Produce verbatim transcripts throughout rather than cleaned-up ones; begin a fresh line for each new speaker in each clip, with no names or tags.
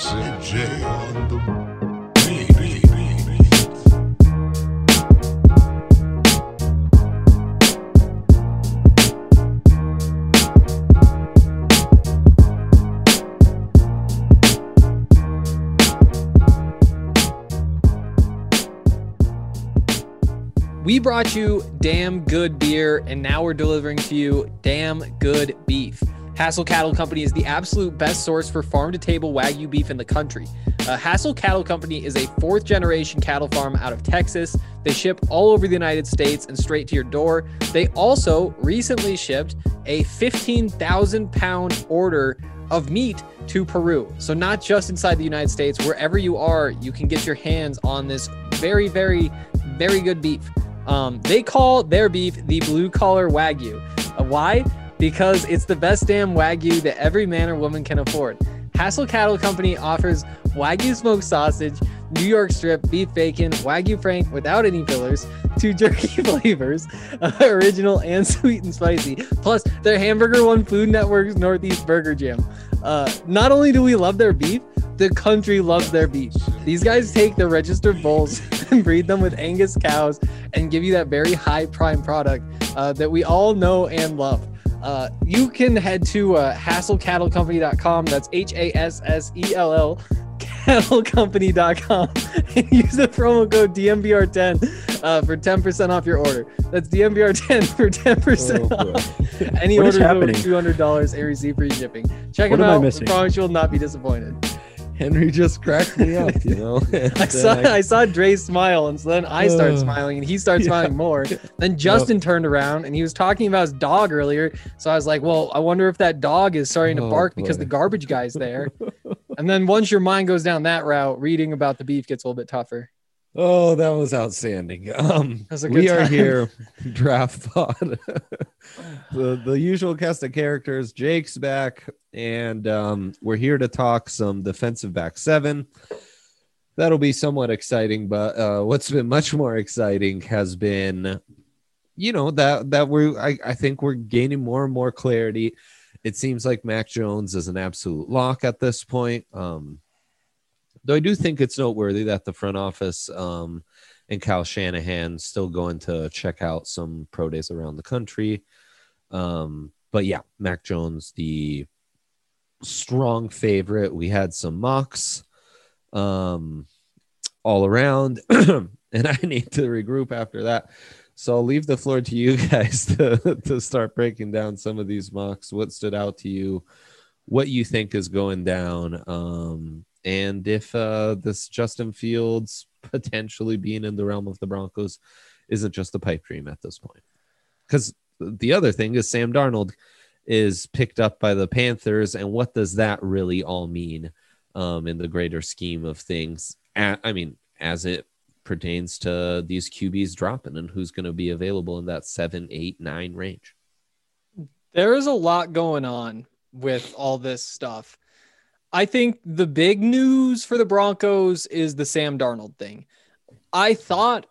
Sid J on the beat.
We brought you damn good beer, and now we're delivering to you damn good beef. Hassel Cattle Company is the absolute best source for farm-to-table Wagyu beef in the country. Uh, Hassel Cattle Company is a fourth-generation cattle farm out of Texas. They ship all over the United States and straight to your door. They also recently shipped a fifteen thousand pound order of meat to Peru. So not just inside the United States, wherever you are, you can get your hands on this very, very, very good beef. Um, they call their beef the blue collar Wagyu. Uh, why? Because it's the best damn Wagyu that every man or woman can afford. Hassel Cattle Company offers Wagyu smoked sausage, New York strip, beef bacon, Wagyu Frank without any fillers, two jerky flavors, uh, original and sweet and spicy, plus their Hamburger One Food Network's Northeast Burger Jam. Uh, not only do we love their beef, the country loves their beef. These guys take the registered bulls and breed them with Angus cows and give you that very high prime product uh, that we all know and love. Uh, you can head to uh, hassel cattle company dot com. That's H A S S E L L cattle company dot com and use the promo code D M B R ten uh, for ten percent off your order. That's D M B R ten for ten percent
Oh,
off. Any
What is
order over
happening?
two hundred dollars and receive free shipping. Check
What
them
am I
out. I
missing?
promise you will not be disappointed.
Henry just cracked me up, you know. And
I saw
then
I saw Dre smile, and so then I started
Uh,
smiling, and he started
yeah.
smiling more. Then Justin turned around, and he was talking about his dog earlier. So I was like, "Well, I wonder if that dog is starting to
Oh,
bark because
boy.
the garbage guy's there." And then once your mind goes down that route, reading about the beef gets a little bit tougher.
Oh, that was outstanding. Um,
was a good
we are
time.
here, Draft Pod. the the usual cast of characters. Jake's back, and um, we're here to talk some defensive back seven. That'll be somewhat exciting, but uh, what's been much more exciting has been, you know, that that we're I, I think we're gaining more and more clarity. It seems like Mac Jones is an absolute lock at this point. Um, Though I do think it's noteworthy that the front office um, and Kyle Shanahan still going to check out some pro days around the country. Um, but yeah, Mac Jones, the strong favorite. We had some mocks um, all around, and I need to regroup after that. So I'll leave the floor to you guys to, to start breaking down some of these mocks. What stood out to you? What you think is going down? Um, And if uh, this Justin Fields potentially being in the realm of the Broncos isn't just a pipe dream at this point. Because the other thing is Sam Darnold is picked up by the Panthers. And what does that really all mean um, in the greater scheme of things? A- I mean, as it pertains to these Q Bs dropping and who's going to be available in that seven, eight, nine range.
There is a lot going on with all this stuff. I think the big news for the Broncos is the Sam Darnold thing. I thought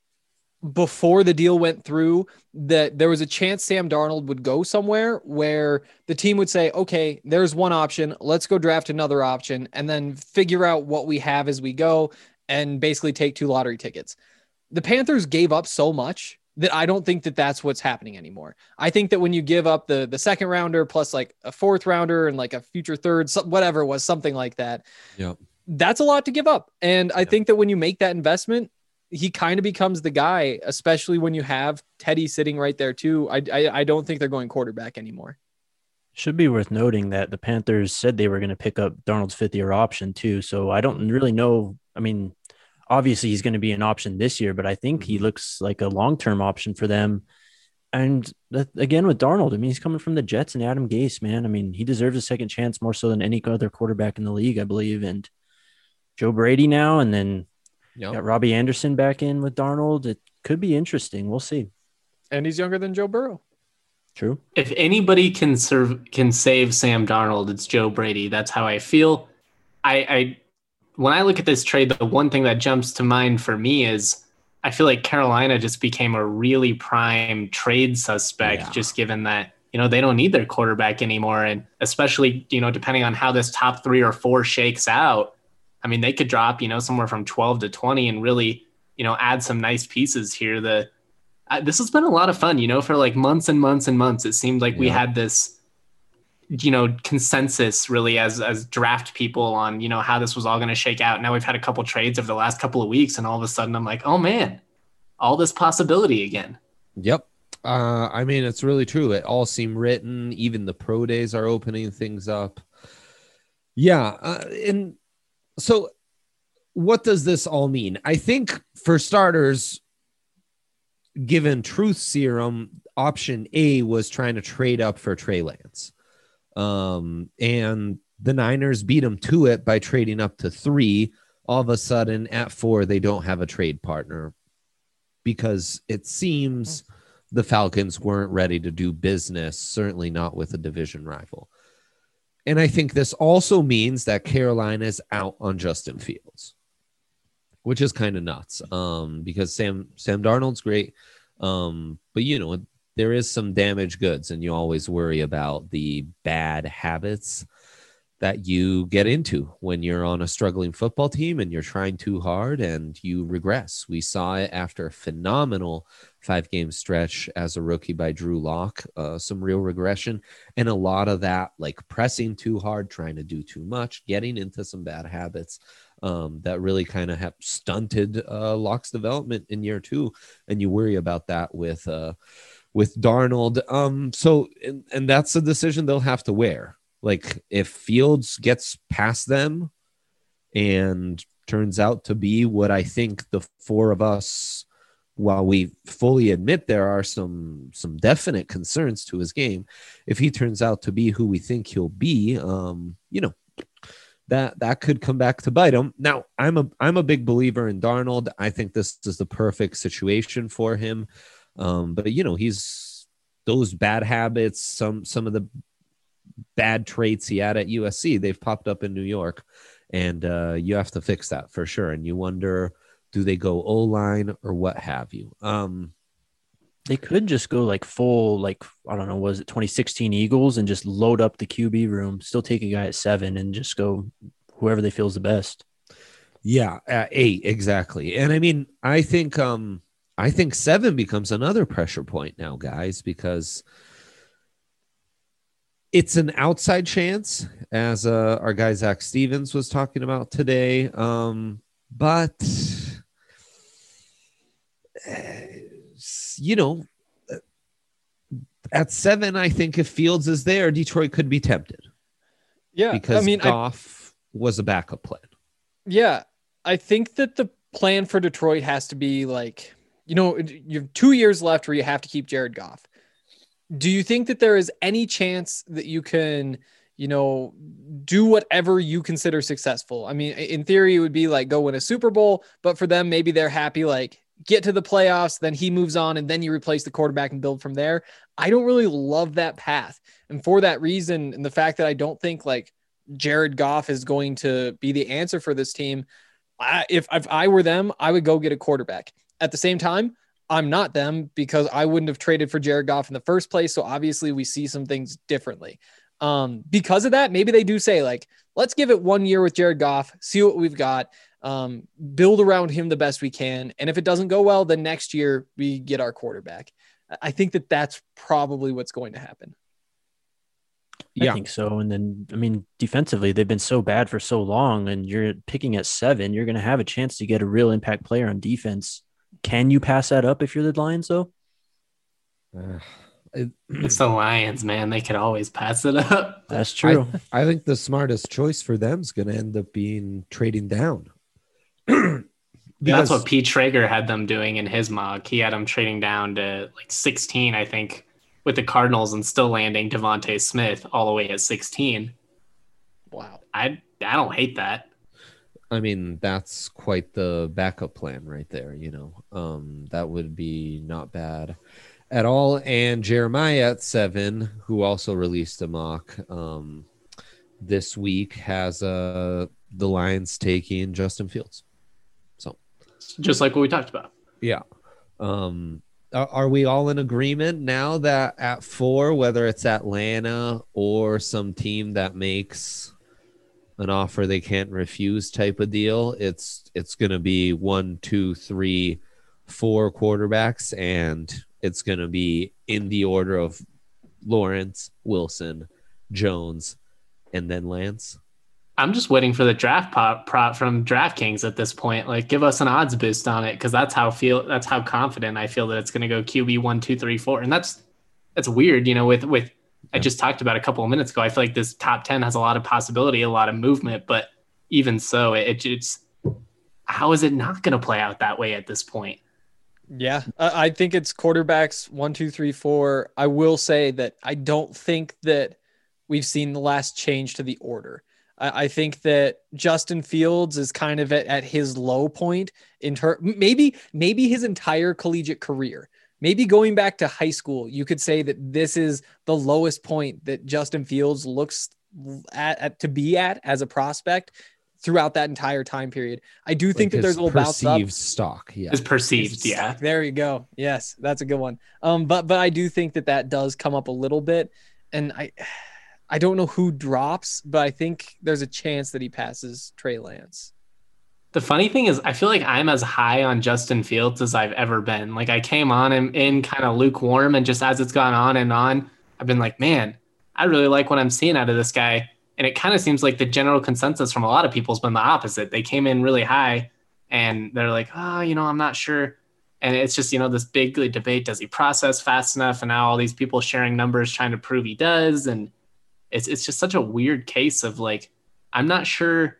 before the deal went through that there was a chance Sam Darnold would go somewhere where the team would say, okay, there's one option. Let's go draft another option and then figure out what we have as we go and basically take two lottery tickets. The Panthers gave up so much that I don't think that that's what's happening anymore. I think that when you give up the the second rounder plus like a fourth rounder and like a future third, so whatever it was, something like that,
Yep.
that's a lot to give up. And I
Yep.
think that when you make that investment, he kind of becomes the guy, especially when you have Teddy sitting right there too. I, I, I don't think they're going quarterback anymore.
Should be worth noting that the Panthers said they were going to pick up Darnold's fifth year option too. So I don't really know. I mean, obviously he's going to be an option this year, but I think he looks like a long-term option for them. And that, again, with Darnold, I mean, he's coming from the Jets and Adam Gase, man. I mean, he deserves a second chance more so than any other quarterback in the league, I believe. And Joe Brady now, and then
Yep.
got Robbie Anderson back in with Darnold. It could be interesting. We'll see.
And he's younger than Joe Burrow.
True.
If anybody can serve can save Sam Darnold, it's Joe Brady. That's how I feel. I, I when I look at this trade, the one thing that jumps to mind for me is I feel like Carolina just became a really prime trade suspect,
Yeah.
just given that you know, they don't need their quarterback anymore. And especially, you know, depending on how this top three or four shakes out, I mean, they could drop, you know, somewhere from twelve to twenty and really, you know, add some nice pieces here. The uh, this has been a lot of fun, you know, for like months and months and months. It seemed like yeah. we had this, you know, consensus really as as draft people on, you know, how this was all going to shake out. Now we've had a couple trades over the last couple of weeks, and all of a sudden I'm like, oh man, all this possibility again.
Yep. Uh, I mean, it's really true. It all seemed written. Even the pro days are opening things up. Yeah. Uh, and so what does this all mean? I think for starters, given Truth Serum, option A was trying to trade up for Trey Lance. Um, and the Niners beat him to it by trading up to three. All of a sudden at four, they don't have a trade partner because it seems the Falcons weren't ready to do business, certainly not with a division rival. And I think this also means that Carolina is out on Justin Fields, which is kind of nuts um, because Sam Sam Darnold's great. Um, but, you know, there is some damaged goods, and you always worry about the bad habits that you get into when you're on a struggling football team and you're trying too hard and you regress. We saw it after a phenomenal five-game stretch as a rookie by Drew Lock, uh, some real regression, and a lot of that, like pressing too hard, trying to do too much, getting into some bad habits um, that really kind of have stunted uh, Lock's development in year two, and you worry about that with uh, with Darnold. Um, so, and, and that's a decision they'll have to wear. Like if Fields gets past them and turns out to be what I think the four of us, while we fully admit there are some some definite concerns to his game, if he turns out to be who we think he'll be, um, you know, that that could come back to bite him. Now, I'm a I'm a big believer in Darnold. I think this is the perfect situation for him. Um, but you know, he's those bad habits, some some of the bad traits he had at U S C, they've popped up in New York, and uh, you have to fix that for sure. And you wonder, do they go O-line or what have you? Um,
they could just go like full, like, I don't know, was it twenty sixteen Eagles and just load up the Q B room, still take a guy at seven and just go whoever they feel is the best.
Yeah, at eight, exactly. And I mean, I think, um, I think seven becomes another pressure point now, guys, because it's an outside chance, as uh, our guy Zach Stevens was talking about today. Um, but, uh, you know, at seven, I think if Fields is there, Detroit could be tempted.
Yeah,
because
I mean,
Goff I, was a backup plan.
Yeah, I think that the plan for Detroit has to be like, you know, you have two years left where you have to keep Jared Goff. Do you think that there is any chance that you can, you know, do whatever you consider successful? I mean, in theory, it would be like go win a Super Bowl, but for them, maybe they're happy, like get to the playoffs, then he moves on, and then you replace the quarterback and build from there. I don't really love that path. And for that reason, and the fact that I don't think like Jared Goff is going to be the answer for this team, I, if, if I were them, I would go get a quarterback. At the same time, I'm not them because I wouldn't have traded for Jared Goff in the first place. So obviously we see some things differently. Um, because of that, maybe they do say like, let's give it one year with Jared Goff, see what we've got, um, build around him the best we can. And if it doesn't go well, then next year we get our quarterback. I think that that's probably what's going to happen.
I yeah. think so. And then, I mean, defensively, they've been so bad for so long, and you're picking at seven, you're going to have a chance to get a real impact player on defense. Can you pass that up if you're the Lions, though?
Uh,
it's the Lions, man. They could always pass it up.
That's true.
I, I think the smartest choice for them is going to end up being trading down.
That's what Pete Traeger had them doing in his mock. He had them trading down to like sixteen, I think, with the Cardinals, and still landing Devontae Smith all the way at sixteen.
Wow.
I I don't hate that.
I mean, that's quite the backup plan right there, you know. Um, that would be not bad at all. And Jeremiah at seven, who also released a mock um, this week, has uh, the Lions taking Justin Fields. So,
just like what we talked about.
Yeah. Um, are, are we all in agreement now that at four, whether it's Atlanta or some team that makes an offer they can't refuse type of deal, it's it's going to be one, two, three, four quarterbacks, and it's going to be in the order of Lawrence, Wilson, Jones, and then Lance?
I'm just waiting for the draft pop prop from DraftKings at this point. Like, give us an odds boost on it, because that's how feel that's how confident I feel that it's going to go Q B one, two, three, four, and that's that's weird. You know, with with I just talked about a couple of minutes ago, I feel like this top ten has a lot of possibility, a lot of movement, but even so, it, it's how is it not going to play out that way at this point?
Yeah, I I think it's quarterbacks one, two, three, four. I will say that I don't think that we've seen the last change to the order. I, I think that Justin Fields is kind of at, at his low point in ter- maybe maybe his entire collegiate career. Maybe going back to high school, you could say that this is the lowest point that Justin Fields looks at, at to be at as a prospect throughout that entire time period. I do think
Like
that there's a little bounce up.
perceived stock. Yeah.
Is perceived, yeah.
There you go. Yes, that's a good one. Um, but but I do think that that does come up a little bit, and I I don't know who drops, but I think there's a chance that he passes Trey Lance.
The funny thing is, I feel like I'm as high on Justin Fields as I've ever been. Like, I came on him in kind of lukewarm, and just as it's gone on and on, I've been like, man, I really like what I'm seeing out of this guy. And it kind of seems like the general consensus from a lot of people has been the opposite. They came in really high, and they're like, oh, you know, I'm not sure. And it's just, you know, this big debate. Does he process fast enough? And now all these people sharing numbers trying to prove he does. And it's it's just such a weird case of, like, I'm not sure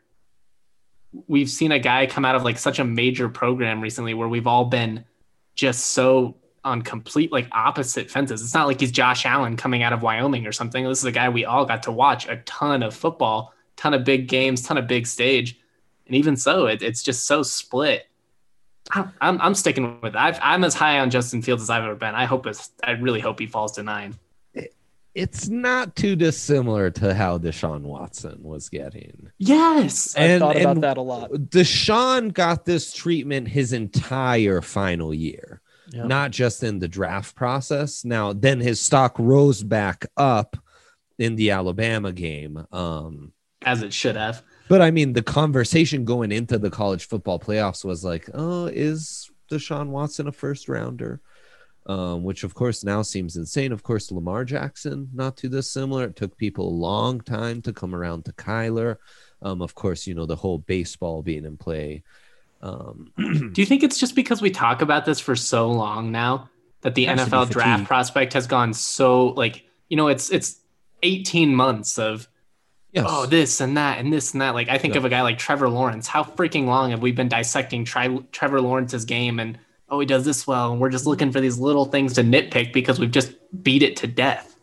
we've seen a guy come out of like such a major program recently where we've all been just so on complete like opposite fences. It's not like he's Josh Allen coming out of Wyoming or something. This is a guy we all got to watch a ton of football, ton of big games, ton of big stage. And even so, it, it's just so split. I'm, I'm sticking with it. I've, I'm as high on Justin Fields as I've ever been. I hope it's, I really hope he falls to nine.
It's not too dissimilar to how Deshaun Watson was getting.
Yes.
I thought about that a lot.
Deshaun got this treatment his entire final year,
Yep.
not just in the draft process. Now, then his stock rose back up in the Alabama game. Um,
As it should have.
but I mean, the conversation going into the college football playoffs was like, oh, is Deshaun Watson a first rounder? Um, which, of course, now seems insane. Of course, Lamar Jackson, not too dissimilar. It took people a long time to come around to Kyler. Um, of course, you know, the whole baseball being in play. Um,
Do you think it's just because we talk about this for so long now that the
Has to
N F
be
L draft
fatigue.
prospect has gone so, like, you know, it's it's eighteen months of,
yes.
oh, this and that and this and that. Like, I think
Yeah.
of a guy like Trevor Lawrence. How freaking long have we been dissecting tri- Trevor Lawrence's game and, oh, he does this well, and we're just looking for these little things to nitpick because we've just beat it to death.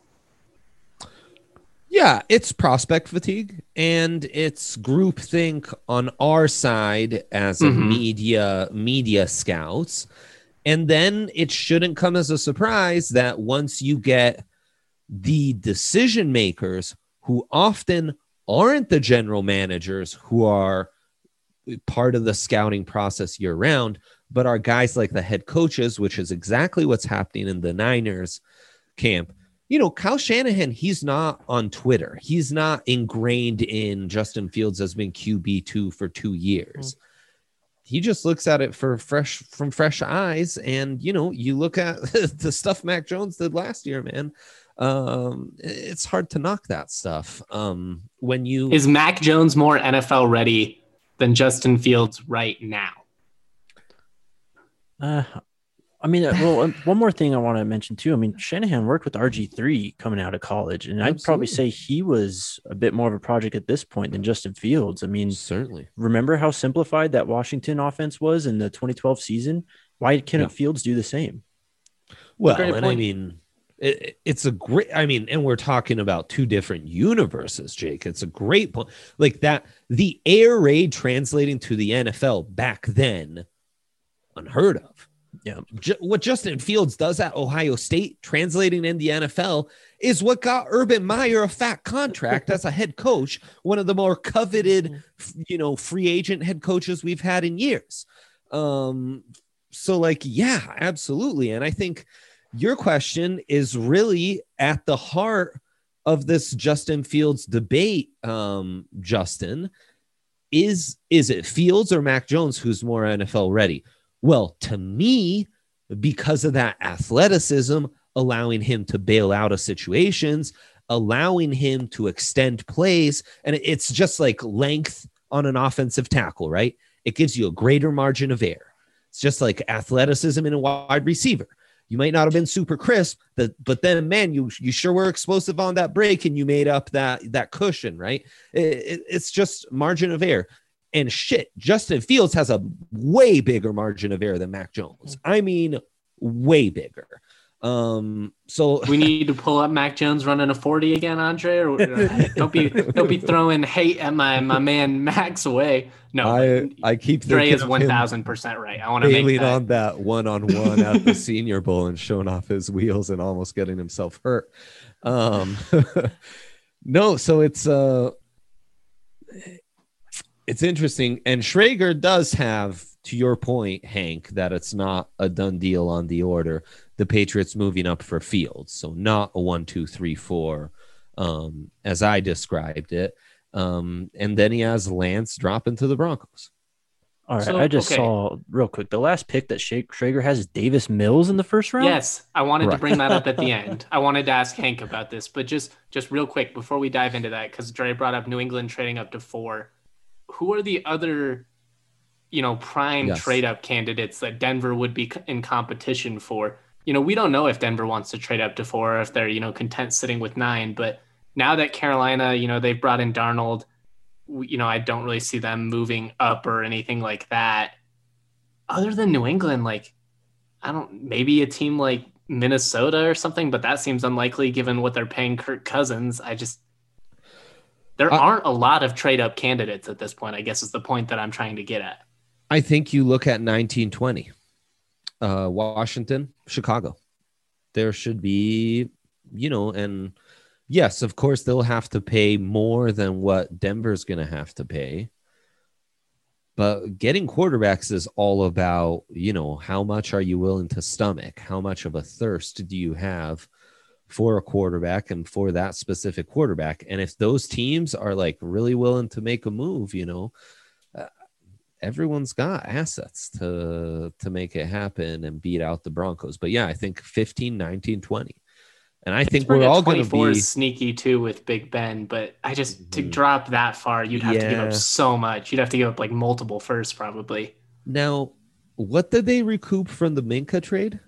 Yeah, it's prospect fatigue, and it's groupthink on our side as a
Mhm.
media media scouts. And then it shouldn't come as a surprise that once you get the decision makers who often aren't the general managers who are part of the scouting process year round, but are guys like the head coaches, which is exactly what's happening in the Niners camp. You know, Kyle Shanahan, he's not on Twitter. He's not ingrained in Justin Fields as being Q B two for two years. Mm-hmm. He just looks at it for fresh from fresh eyes. And, you know, you look at the stuff Mac Jones did last year, man. Um, it's hard to knock that stuff. Um, when you
Is Mac Jones more N F L ready than Justin Fields right now?
Uh, I mean, uh, well, um, one more thing I want to mention too. I mean, Shanahan worked with R G three coming out of college, and I'd probably say he was a bit more of a project at this point than Justin Fields. I mean,
certainly
remember how simplified that Washington offense was in the twenty twelve season? Why couldn't
Yeah.
Fields do the same?
Well,
Great
and I
point.
mean, it, it's a great, I mean, and we're talking about two different universes, Jake. It's a great point. Like that, the air raid translating to the N F L back then, unheard of.
Yeah.
Ju- what Justin Fields does at Ohio State, translating in the N F L, is what got Urban Meyer a fat contract as a head coach, one of the more coveted, f- you know, free agent head coaches we've had in years. Um, so like, yeah, absolutely. And I think your question is really at the heart of this Justin Fields debate. Um, Justin, is, is it Fields or Mac Jones who's more N F L ready? Well, to me, because of that athleticism, allowing him to bail out of situations, allowing him to extend plays. And it's just like length on an offensive tackle, right? It gives you a greater margin of error. It's just like athleticism in a wide receiver. You might not have been super crisp, but, but then, man, you you sure were explosive on that break and you made up that, that cushion, right? It, it, it's just margin of error. And shit, Justin Fields has a way bigger margin of error than Mac Jones. I mean, way bigger. Um, so
we need to pull up Mac Jones running a forty again, Andre, or don't be don't be throwing hate at my my man Mac's away. No,
I I keep
Dre is one thousand percent right. I want to make that.
on that one on one at the Senior Bowl and showing off his wheels and almost getting himself hurt. Um, no, so it's uh, it's interesting, and Schrager does have, to your point, Hank, that it's not a done deal on the order. The Patriots moving up for Fields, so not a one, two, three, four, um, as I described it. Um, and then he has Lance dropping to the Broncos.
All right,
So,
I just
okay.
saw real quick the last pick that Schrager has is Davis Mills in the first round.
Yes, I wanted
Right.
to bring that up at the end. I wanted to ask Hank about this, but just just real quick before we dive into that, because Dre brought up New England trading up to four. Who are the other, you know, prime
Yes.
trade up candidates that Denver would be in competition for? You know, we don't know if Denver wants to trade up to four or if they're, you know, content sitting with nine. But now that Carolina, you know, they've brought in Darnold, you know, I don't really see them moving up or anything like that. Other than New England, like, I don't, maybe a team like Minnesota or something, but that seems unlikely given what they're paying Kirk Cousins. I just, there
I-
aren't a lot of trade up candidates at this point, I guess is the point that I'm trying to get at.
I think you look at nineteen twenty, uh, Washington, Chicago. There should be, you know, and yes, of course, they'll have to pay more than what Denver's going to have to pay. But getting quarterbacks is all about, you know, how much are you willing to stomach? How much of a thirst do you have for a quarterback and for that specific quarterback? And if those teams are like really willing to make a move, you know, uh, everyone's got assets to to make it happen and beat out the Broncos. But yeah, I think fifteen, nineteen, twenty. And I think
Pittsburgh
we're
at
all going to
twenty-four
be
is sneaky too with Big Ben, but I just to
Mhm.
drop that far, you'd have to give
Yeah.
up so much. You'd have to give up like multiple firsts probably.
now. What did they recoup from the Minka trade?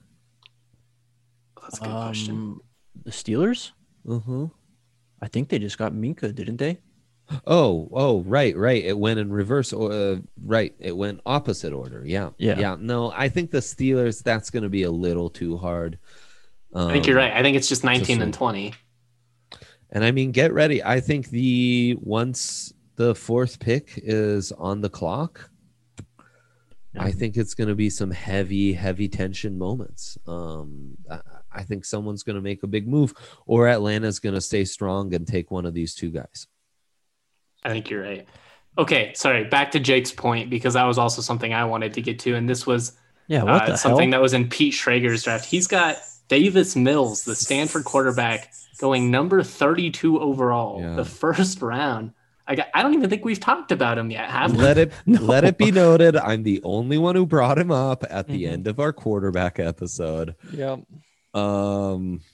That's a good question.
Um, the Steelers.
Uh-huh.
I think they just got Minka, didn't they?
Oh, oh, right, right. It went in reverse. Uh, right. It went opposite order. Yeah.
Yeah.
Yeah. No, I think the Steelers, that's going to be a little too hard. Um,
I think you're right. I think it's just nineteen
so-
and twenty.
And I mean, get ready. I think the once the fourth pick is on the clock,
Yeah.
I think it's going to be some heavy, heavy tension moments. Um, I, I think someone's going to make a big move, or Atlanta's going to stay strong and take one of these two guys.
I think you're right. Okay, sorry. Back to Jake's point, because that was also something I wanted to get to, and this was
Yeah. What
uh,
the
something
hell?
that was in Pete Schrager's draft. He's got Davis Mills, the Stanford quarterback, going number thirty-two overall,
Yeah.
the first round. I got, I don't even think we've talked about him yet, have we?
Let it
No.
let it be noted, I'm the only one who brought him up at the
Mhm.
end of our quarterback episode.
Yeah.
Um,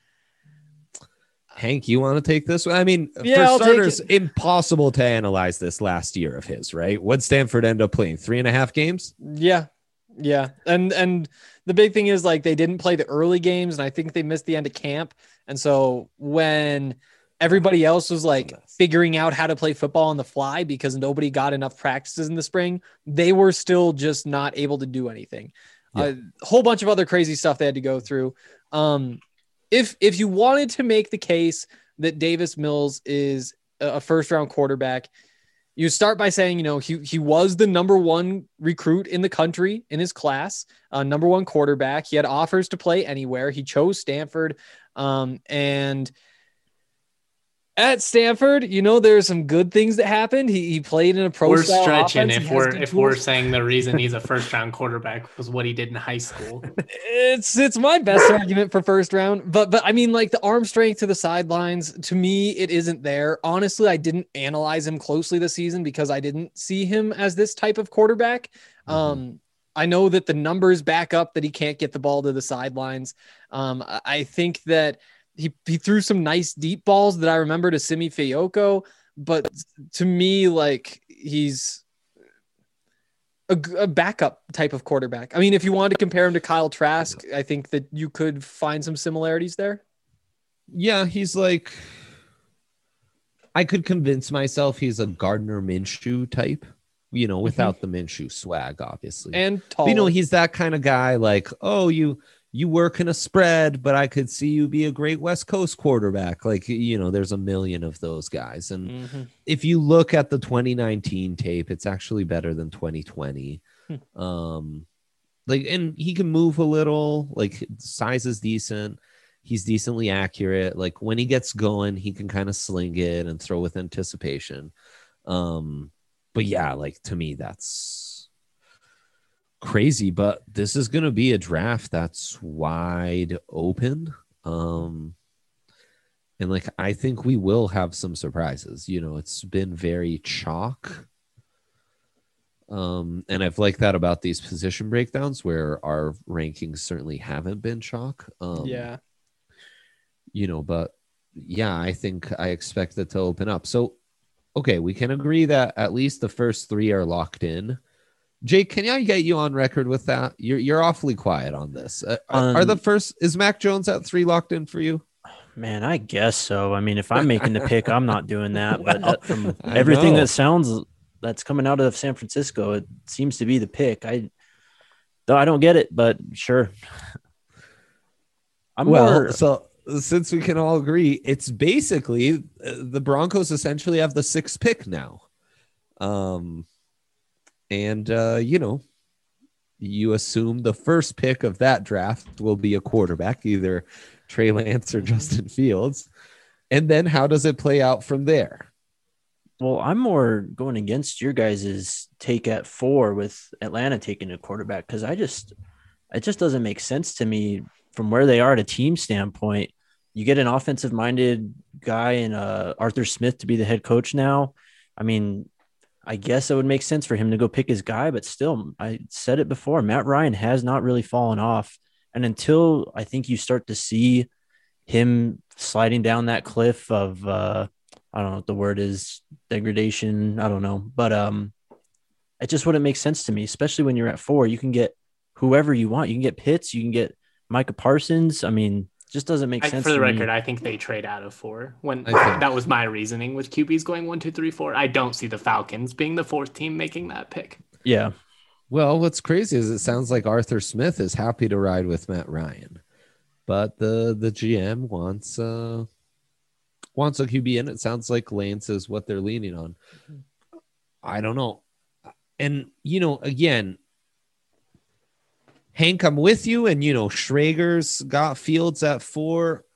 Hank, you want to take this one? I mean,
Yeah,
for
I'll take
starters,
it.
impossible to analyze this last year of his, right? What Stanford end up playing? Three and a half games?
Yeah. Yeah. And and the big thing is like they didn't play the early games, and I think they missed the end of camp. And so when everybody else was like figuring out how to play football on the fly because nobody got enough practices in the spring, they were still just not able to do anything.
Yeah.
A whole bunch of other crazy stuff they had to go through. Um, if if you wanted to make the case that Davis Mills is a first round quarterback, you start by saying, you know, he he was the number one recruit in the country in his class, uh, number one quarterback. He had offers to play anywhere. He chose Stanford, um, and At Stanford, you know, there's some good things that happened. He, he played in a pro
We're
style
stretching
offense.
if
He has
we're
good
if we're
tools.
saying the reason he's a first round quarterback was what he did in high school.
It's it's my best argument for first round, but but I mean, like the arm strength to the sidelines, to me, it isn't there. Honestly, I didn't analyze him closely this season because I didn't see him as this type of quarterback.
Mhm.
Um, I know that the numbers back up that he can't get the ball to the sidelines. Um, I I think that he he threw some nice deep balls that I remember to Simi Fayoko, but to me, like he's a, g- a backup type of quarterback. I mean, if you wanted to compare him to Kyle Trask, I think that you could find some similarities there.
Yeah, he's like, I could convince myself he's a Gardner Minshew type, you know, without the Minshew swag, obviously.
And
But,
tall.
you know, he's that kind of guy. Like, oh, you you work in a spread, but I could see you be a great West Coast quarterback. Like, you know, there's a million of those guys. And
Mhm.
if you look at the twenty nineteen tape, it's actually better than twenty twenty.
Hmm.
Um, like, and he can move a little. Like, size is decent. He's decently accurate. Like, when he gets going, he can kind of sling it and throw with anticipation. Um, but yeah, like to me, that's crazy. But this is going to be a draft that's wide open. Um, and like, I think we will have some surprises. You know, it's been very chalk. Um, and I've liked that about these position breakdowns where our rankings certainly haven't been chalk. Um,
yeah.
you know, but yeah, I think I expect it to open up. So, okay, we can agree that at least the first three are locked in. Jake, can I get you on record with that? You're you're awfully quiet on this. Uh, are, are the
Um,
first is Mac Jones at three locked in for you?
Man, I guess so. I mean, if I'm making the pick, I'm not doing that. But
Well,
that, from
I
everything
know.
that sounds that's coming out of San Francisco, it seems to be the pick. I though I don't get it, but sure. I'm
Well,
more.
so since we can all agree, it's basically uh, the Broncos essentially have the sixth pick now. Um, and uh, you know, you assume the first pick of that draft will be a quarterback, either Trey Lance or Justin Fields. And then how does it play out from there?
Well, I'm more going against your guys' take at four with Atlanta taking a quarterback because I just it just doesn't make sense to me from where they are at a team standpoint. You get an offensive minded guy in uh, Arthur Smith to be the head coach now. I mean, I guess it would make sense for him to go pick his guy, but still, I said it before, Matt Ryan has not really fallen off. And until I think you start to see him sliding down that cliff of, uh, I don't know what the word is, degradation. I don't know. But um, it just wouldn't make sense to me, especially when you're at four. You can get whoever you want. You can get Pitts. You can get Micah Parsons. I mean, just doesn't make
I,
sense
for the
to
record,
me.
I think they trade out of four. When
I think-
that was my reasoning with Q Bs going one, two, three, four. I don't see the Falcons being the fourth team making that pick.
Yeah.
Well, what's crazy is it sounds like Arthur Smith is happy to ride with Matt Ryan, but the the G M wants uh wants a Q B in. It sounds like Lance is what they're leaning on. I don't know. And you know, again, Hank, I'm with you. And you know, Schrager's got Fields at four.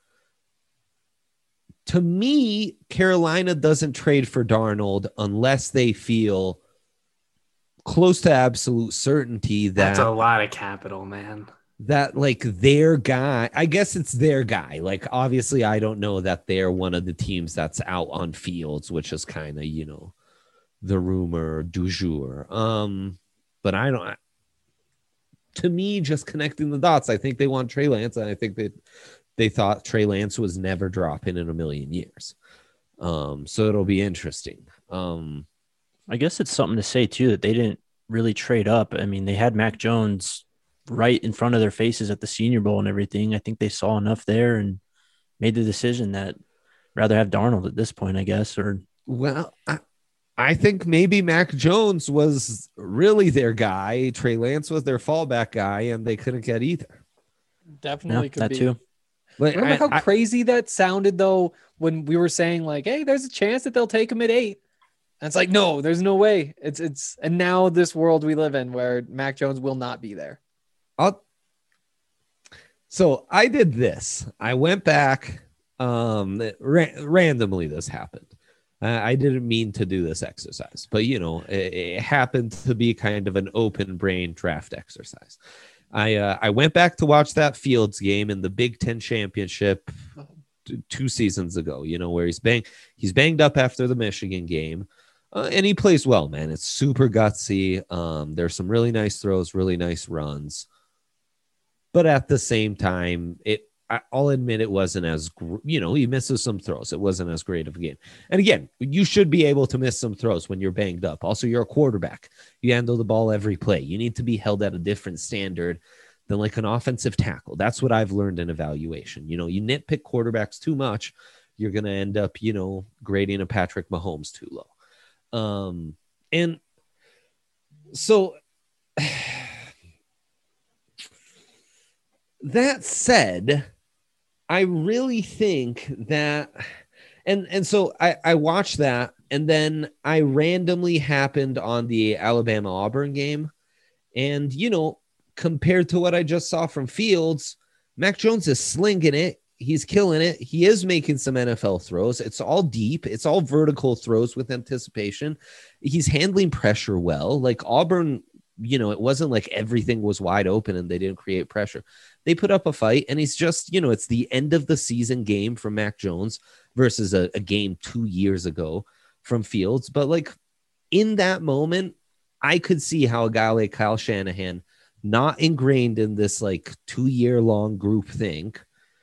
To me, Carolina doesn't trade for Darnold unless they feel close to absolute certainty that
That's a lot of capital, man.
that like their guy, I guess it's their guy. Like, obviously, I don't know that they're one of the teams that's out on Fields, which is kind of, you know, the rumor du jour. Um, but I don't, to me, just connecting the dots, I think they want Trey Lance, and I think that they thought Trey Lance was never dropping in a million years. Um, so it'll be interesting. Um,
I guess it's something to say too that they didn't really trade up. I mean, they had Mac Jones right in front of their faces at the Senior Bowl and everything. I think they saw enough there and made the decision that rather have Darnold at this point, I guess. Or
well, I, I think maybe Mac Jones was really their guy. Trey Lance was their fallback guy, and they couldn't get either.
Definitely
yeah,
could
that
be.
too.
Like,
Remember
I-
how
I-
crazy that sounded though when we were saying like, "Hey, there's a chance that they'll take him at eight." And it's like, no, there's no way. It's it's and now this world we live in where Mac Jones will not be there.
I'll, so I did this. I went back. Um, ra- randomly this happened. Uh, I didn't mean to do this exercise, but you know, it, it happened to be kind of an open brain draft exercise. I uh, I went back to watch that Fields game in the Big Ten championship t- two seasons ago. You know, where he's bang he's banged up after the Michigan game, uh, and he plays well, man. It's super gutsy. Um, there's some really nice throws, really nice runs, but at the same time, it. I- I'll admit it wasn't as, gr- you know, he misses some throws. It wasn't as great of a game. And again, you should be able to miss some throws when you're banged up. Also, you're a quarterback. You handle the ball every play. You need to be held at a different standard than like an offensive tackle. That's what I've learned in evaluation. You know, you nitpick quarterbacks too much, you're going to end up, you know, grading a Patrick Mahomes too low. Um, and so that said, I really think that, and and so I, I watched that, and then I randomly happened on the Alabama Auburn game, and you know, compared to what I just saw from Fields, Mac Jones is slinging it. He's killing it. He is making some N F L throws. It's all deep. It's all vertical throws with anticipation. He's handling pressure well. Like Auburn, you know, it wasn't like everything was wide open and they didn't create pressure. They put up a fight, and he's just, you know, it's the end of the season game from Mac Jones versus a, a game two years ago from Fields. But like in that moment, I could see how a guy like Kyle Shanahan, not ingrained in this like two year long group think,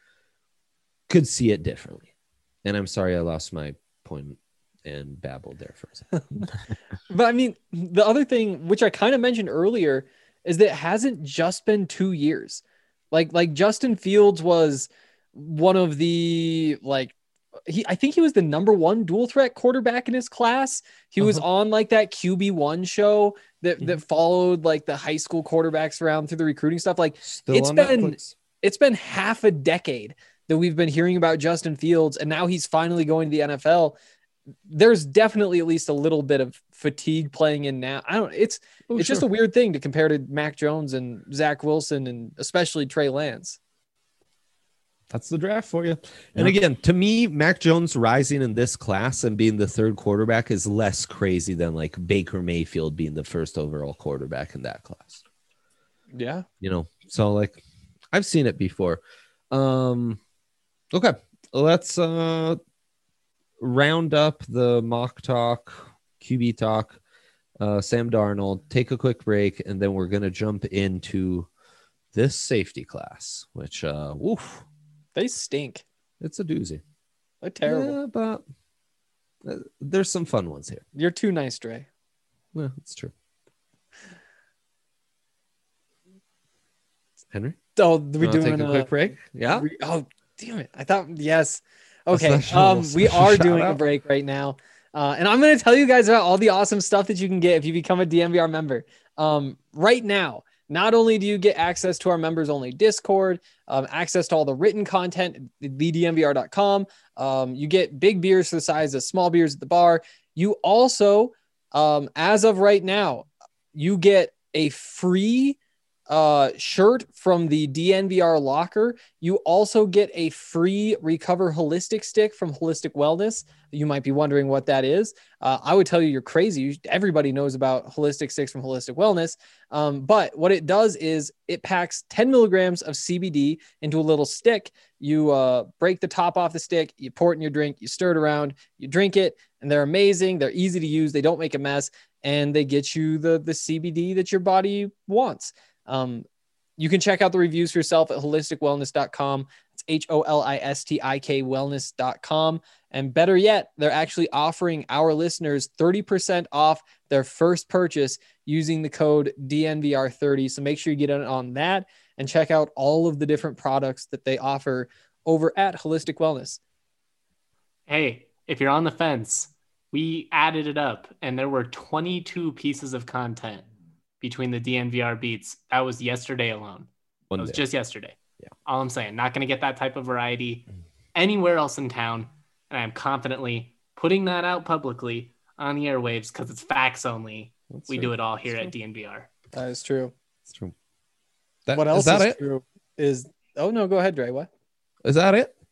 could see it differently. And I'm sorry I lost my point and babbled there for a second.
But I mean, the other thing, which I kind of mentioned earlier, is that it hasn't just been two years. Like, like Justin Fields was one of the, like, he, I think he was the number one dual threat quarterback in his class. He was
Uh-huh.
on like that Q B one show that,
Mhm.
that followed like the high school quarterbacks around through the recruiting stuff. Like
Still
it's
on
been,
Netflix.
it's been half a decade that we've been hearing about Justin Fields, and now he's finally going to the N F L. There's definitely at least a little bit of fatigue playing in now. I don't, it's,
Oh,
it's just a weird thing to compare to Mac Jones and Zach Wilson and especially Trey Lance.
That's the draft for you. And
Yeah.
again, to me, Mac Jones rising in this class and being the third quarterback is less crazy than like Baker Mayfield being the first overall quarterback in that class.
Yeah.
You know, so like I've seen it before. Um, okay, let's uh round up the mock talk, Q B talk, uh, Sam Darnold, take a quick break, and then we're going to jump into this safety class, which, uh, woof,
They stink.
it's a doozy.
They're terrible.
Yeah, but uh, there's some fun ones here.
You're too nice, Dre.
Well, it's true. Henry,
Oh, we
wanna
doing
take a
a
quick break? Yeah.
re- oh, damn it. I thought, yes.
A
Okay.
special-
Um, we
special
are
shout
doing a
out.
break right now. Uh, and I'm going to tell you guys about all the awesome stuff that you can get if you become a D N V R member. Um, right now, not only do you get access to our members only Discord, um, access to all the written content, the D N V R dot com. Um, you get big beers for the size of small beers at the bar. You also, um, as of right now, you get a free uh, shirt from the D N V R locker. You also get a free Recover Holistic stick from Holistic Wellness. You might be wondering what that is. Uh, I would tell you you're crazy. You- Everybody knows about holistic sticks from Holistic Wellness. Um, but what it does is it packs ten milligrams of C B D into a little stick. You uh, break the top off the stick, you pour it in your drink, you stir it around, you drink it, and they're amazing. They're easy to use. They don't make a mess, and they get you the, the C B D that your body wants. Um, you can check out the reviews for yourself at holistic wellness dot com. It's H O L I S T I K wellness dot com. And better yet, they're actually offering our listeners thirty percent off their first purchase using the code D N V R thirty. So make sure you get in on that and check out all of the different products that they offer over at Holistic Wellness.
Hey, if you're on the fence, we added it up and there were twenty-two pieces of content between the D N V R beats. That was yesterday alone.
One
It was
day.
just yesterday.
Yeah.
All I'm saying, not going to get that type of variety anywhere else in town. And I'm confidently putting that out publicly on the airwaves because it's facts only.
That's
We
true.
do it all here
That's
at D N V R.
That is true.
It's true. That,
What else
is that
is
it?
true is, oh no, go ahead, Dre. What?
Is that it?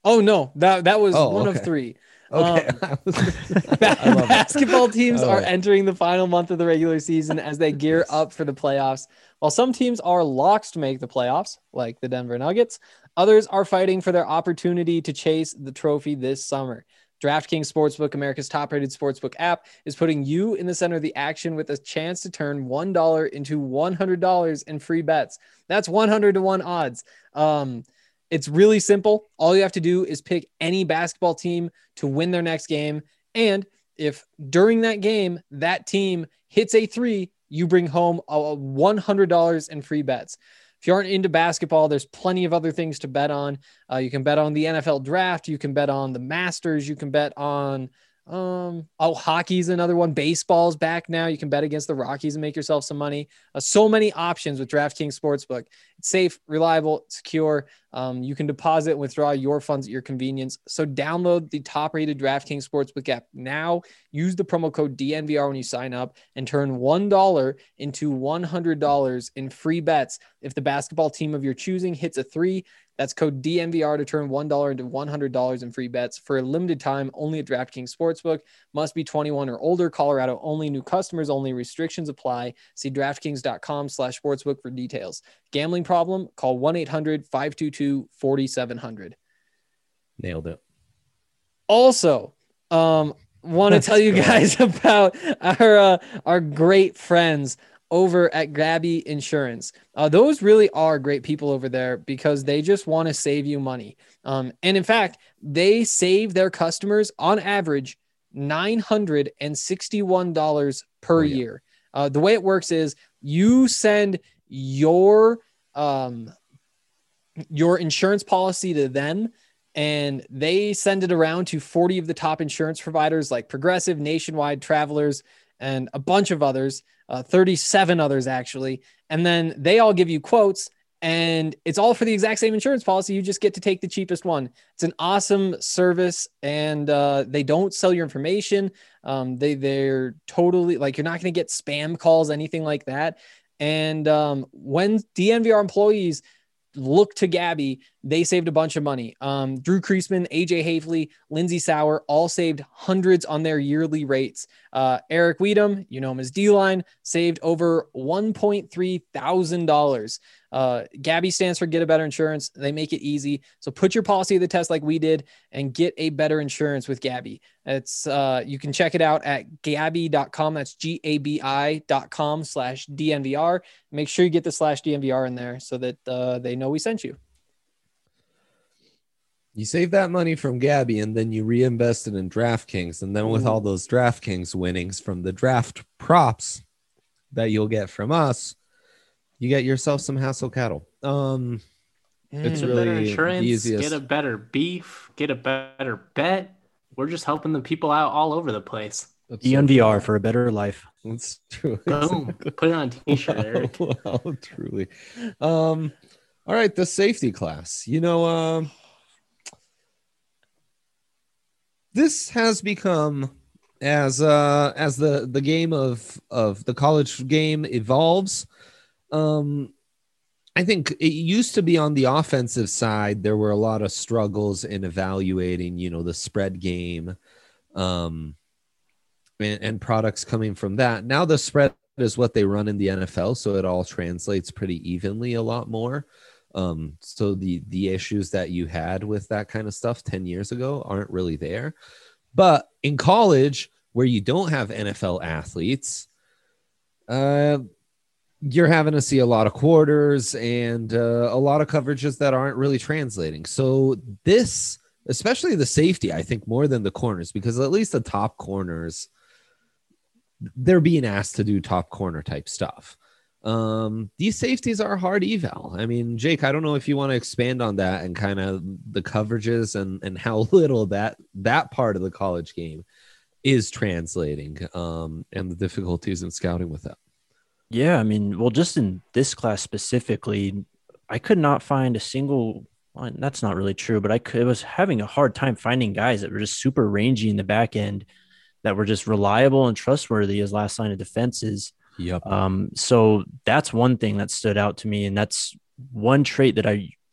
Oh no, that that was
Oh,
one
okay.
of three.
Okay.
Um,
I was-
Ba-
I love it.
basketball teams
All
are
right.
entering the final month of the regular season as they gear
Yes.
up for the playoffs. While some teams are locked to make the playoffs, like the Denver Nuggets, others are fighting for their opportunity to chase the trophy this summer. DraftKings Sportsbook, America's top-rated sportsbook app, is putting you in the center of the action with a chance to turn one dollar into one hundred dollars in free bets. That's one hundred to one odds. Um, It's really simple. All you have to do is pick any basketball team to win their next game. And if during that game, that team hits a three, you bring home a one hundred dollars in free bets. If you aren't into basketball, there's plenty of other things to bet on. Uh, you can bet on the N F L draft. You can bet on the Masters. You can bet on, um, oh, hockey's another one. Baseball's back now. You can bet against the Rockies and make yourself some money. Uh, so many options with DraftKings Sportsbook. It's safe, reliable, secure. Um, you can deposit and withdraw your funds at your convenience. So download the top-rated DraftKings Sportsbook app now. Use the promo code D N V R when you sign up and turn one dollar into one hundred dollars in free bets. If the basketball team of your choosing hits a three, that's code D N V R to turn one dollar into one hundred dollars in free bets for a limited time only at DraftKings Sportsbook. Must be twenty-one or older. Colorado only. New customers only. Restrictions apply. See DraftKings.com slash sportsbook for details. Gambling problem? Call one eight hundred five two two four seven zero zero.
Nailed it.
Also, um, want to tell you guys about our uh, our great friends over at Gabby Insurance. Uh, those really are great people over there because they just want to save you money. Um, and in fact, they save their customers on average nine hundred sixty-one dollars per
Oh, yeah.
year. Uh, the way it works is you send your um, your insurance policy to them, and they send it around to forty of the top insurance providers like Progressive, Nationwide, Travelers, and a bunch of others, uh, thirty-seven others actually. And then they all give you quotes, and it's all for the exact same insurance policy. You just get to take the cheapest one. It's an awesome service, and uh, they don't sell your information. Um, they, they're totally like, you're not going to get spam calls, anything like that. And um, when D N V R employees look to Gabby, they saved a bunch of money. Um, Drew Kreisman, A J Havely, Lindsey Sauer all saved hundreds on their yearly rates. Uh, Eric Weedham, you know him as D-Line, saved over one point three thousand dollars. Uh, Gabby stands for Get a Better Insurance. They make it easy. So put your policy to the test like we did and get a better insurance with Gabby. It's uh, you can check it out at Gabi dot com. That's G A B I dot com slash D N V R. Make sure you get the slash D N V R in there so that uh, they know we sent you.
You save that money from Gabby and then you reinvest it in DraftKings. And then with
Ooh.
all those DraftKings winnings from the draft props that you'll get from us, you get yourself some Hassel cattle. Um, It's
Get a
really
better
the
insurance,
easiest.
get a better beef, get a better bet. We're just helping the people out all over the place.
That's
D
so
N V R
true.
for a better life.
That's true.
Boom. Put it on a t-shirt, Eric.
Wow, wow, truly. Um, all right, the safety class. You know, um, this has become as uh as the the game of of the college game evolves. Um, I think it used to be on the offensive side. There were a lot of struggles in evaluating, you know, the spread game, um, and, and products coming from that. Now the spread is what they run in the N F L, so it all translates pretty evenly a lot more. Um, so the the issues that you had with that kind of stuff ten years ago aren't really there. But in college, where you don't have N F L athletes, uh, you're having to see a lot of quarters and uh, a lot of coverages that aren't really translating. So this, especially the safety, I think more than the corners, because at least the top corners, they're being asked to do top corner type stuff. Um, these safeties are hard eval. I mean, Jake, I don't know if you want to expand on that and kind of the coverages and, and how little that, that part of the college game is translating um, and the difficulties in scouting with that.
Yeah, I mean, well, just in this class specifically, I could not find a single. Well, that's not really true, but I could, was having a hard time finding guys that were just super rangy in the back end, that were just reliable and trustworthy as last line of defenses.
Yep.
Um, so that's one thing that stood out to me, and that's one trait that I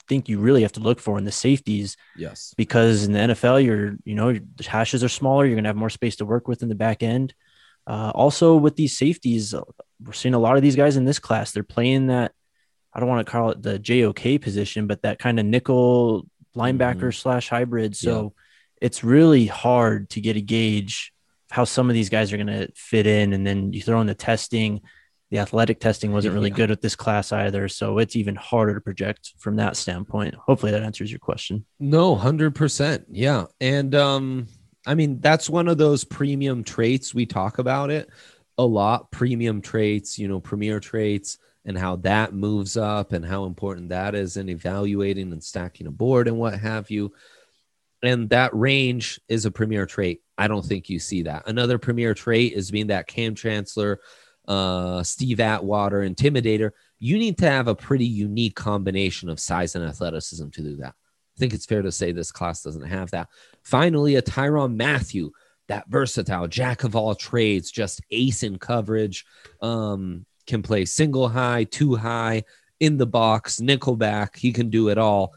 think you really have to look for in the safeties,
Yes.
because in the N F L, you're, you know, the hashes are smaller. You're going to have more space to work with in the back end. Uh, also with these safeties, we're seeing a lot of these guys in this class. They're playing that, I don't want to call it the J O K position, but that kind of nickel linebacker
Mhm.
slash hybrid. So it's really hard to get a gauge of how some of these guys are going to fit in. And then you throw in the testing. The athletic testing wasn't really
Yeah.
good with this class either. So it's even harder to project from that standpoint. Hopefully that answers your question.
No, one hundred percent. Yeah. And um, I mean, that's one of those premium traits. We talk about it a lot, premium traits, you know, premier traits, and how that moves up and how important that is in evaluating and stacking a board and what have you. And that range is a premier trait. I don't think you see that. Another premier trait is being that Cam Chancellor, uh, Steve Atwater intimidator. You need to have a pretty unique combination of size and athleticism to do that. I think it's fair to say this class doesn't have that. Finally, a Tyrann Mathieu, that versatile jack of all trades, just ace in coverage, um, can play single high, two high, in the box, nickel back. He can do it all.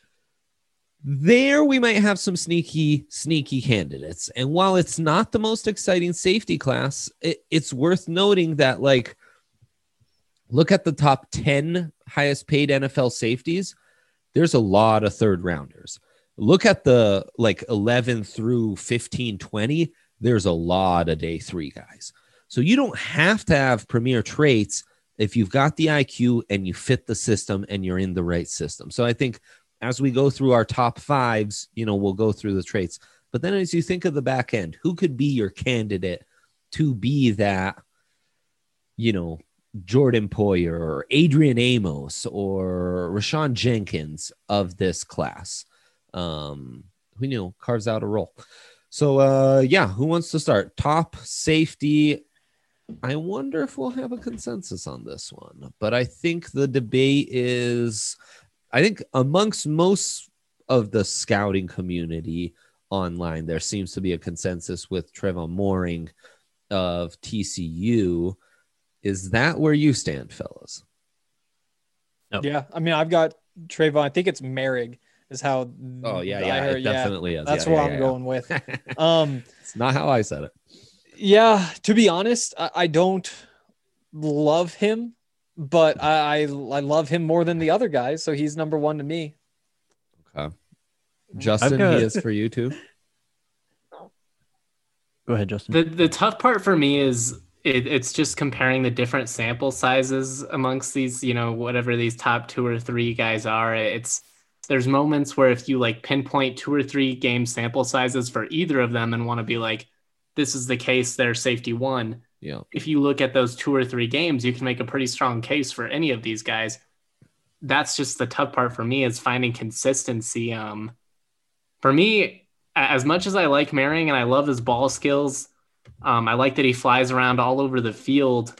There we might have some sneaky, sneaky candidates. And while it's not the most exciting safety class, it, it's worth noting that, like, look at the top ten highest paid N F L safeties. There's a lot of third rounders. Look at the like eleven through fifteen, twenty. There's a lot of day three guys. So you don't have to have premier traits if you've got the I Q and you fit the system and you're in the right system. So I think as we go through our top fives, you know, we'll go through the traits. But then as you think of the back end, who could be your candidate to be that, you know, Jordan Poyer or Adrian Amos or Rashawn Jenkins of this class? Um, who you know carves out a role. So uh, yeah, who wants to start? Top safety. I wonder if we'll have a consensus on this one, but I think the debate is, I think amongst most of the scouting community online, there seems to be a consensus with Trevon Moehrig of T C U. Is that where you stand, fellas?
No.
Yeah, I mean, I've got Trayvon. I think it's Merrick is how.
Oh yeah,
I
yeah,
heard,
it definitely is.
That's
yeah,
what
yeah,
I'm
yeah,
going with. Um,
it's not how I said it.
yeah, to be honest, I, I don't love him, but I, I I love him more than the other guys, so he's number one to me.
Okay. Justin,
got-
he is for you too.
Go ahead, Justin.
The the tough part for me is it, it's just comparing the different sample sizes amongst these, you know, whatever these top two or three guys are. It's there's moments where if you like pinpoint two or three game sample sizes for either of them and want to be like, this is the case, they're safety one.
Yeah.
If you look at those two or three games, you can make a pretty strong case for any of these guys. That's just the tough part for me, is finding consistency. Um, for me, as much as I like Merrick and I love his ball skills, um, I like that he flies around all over the field,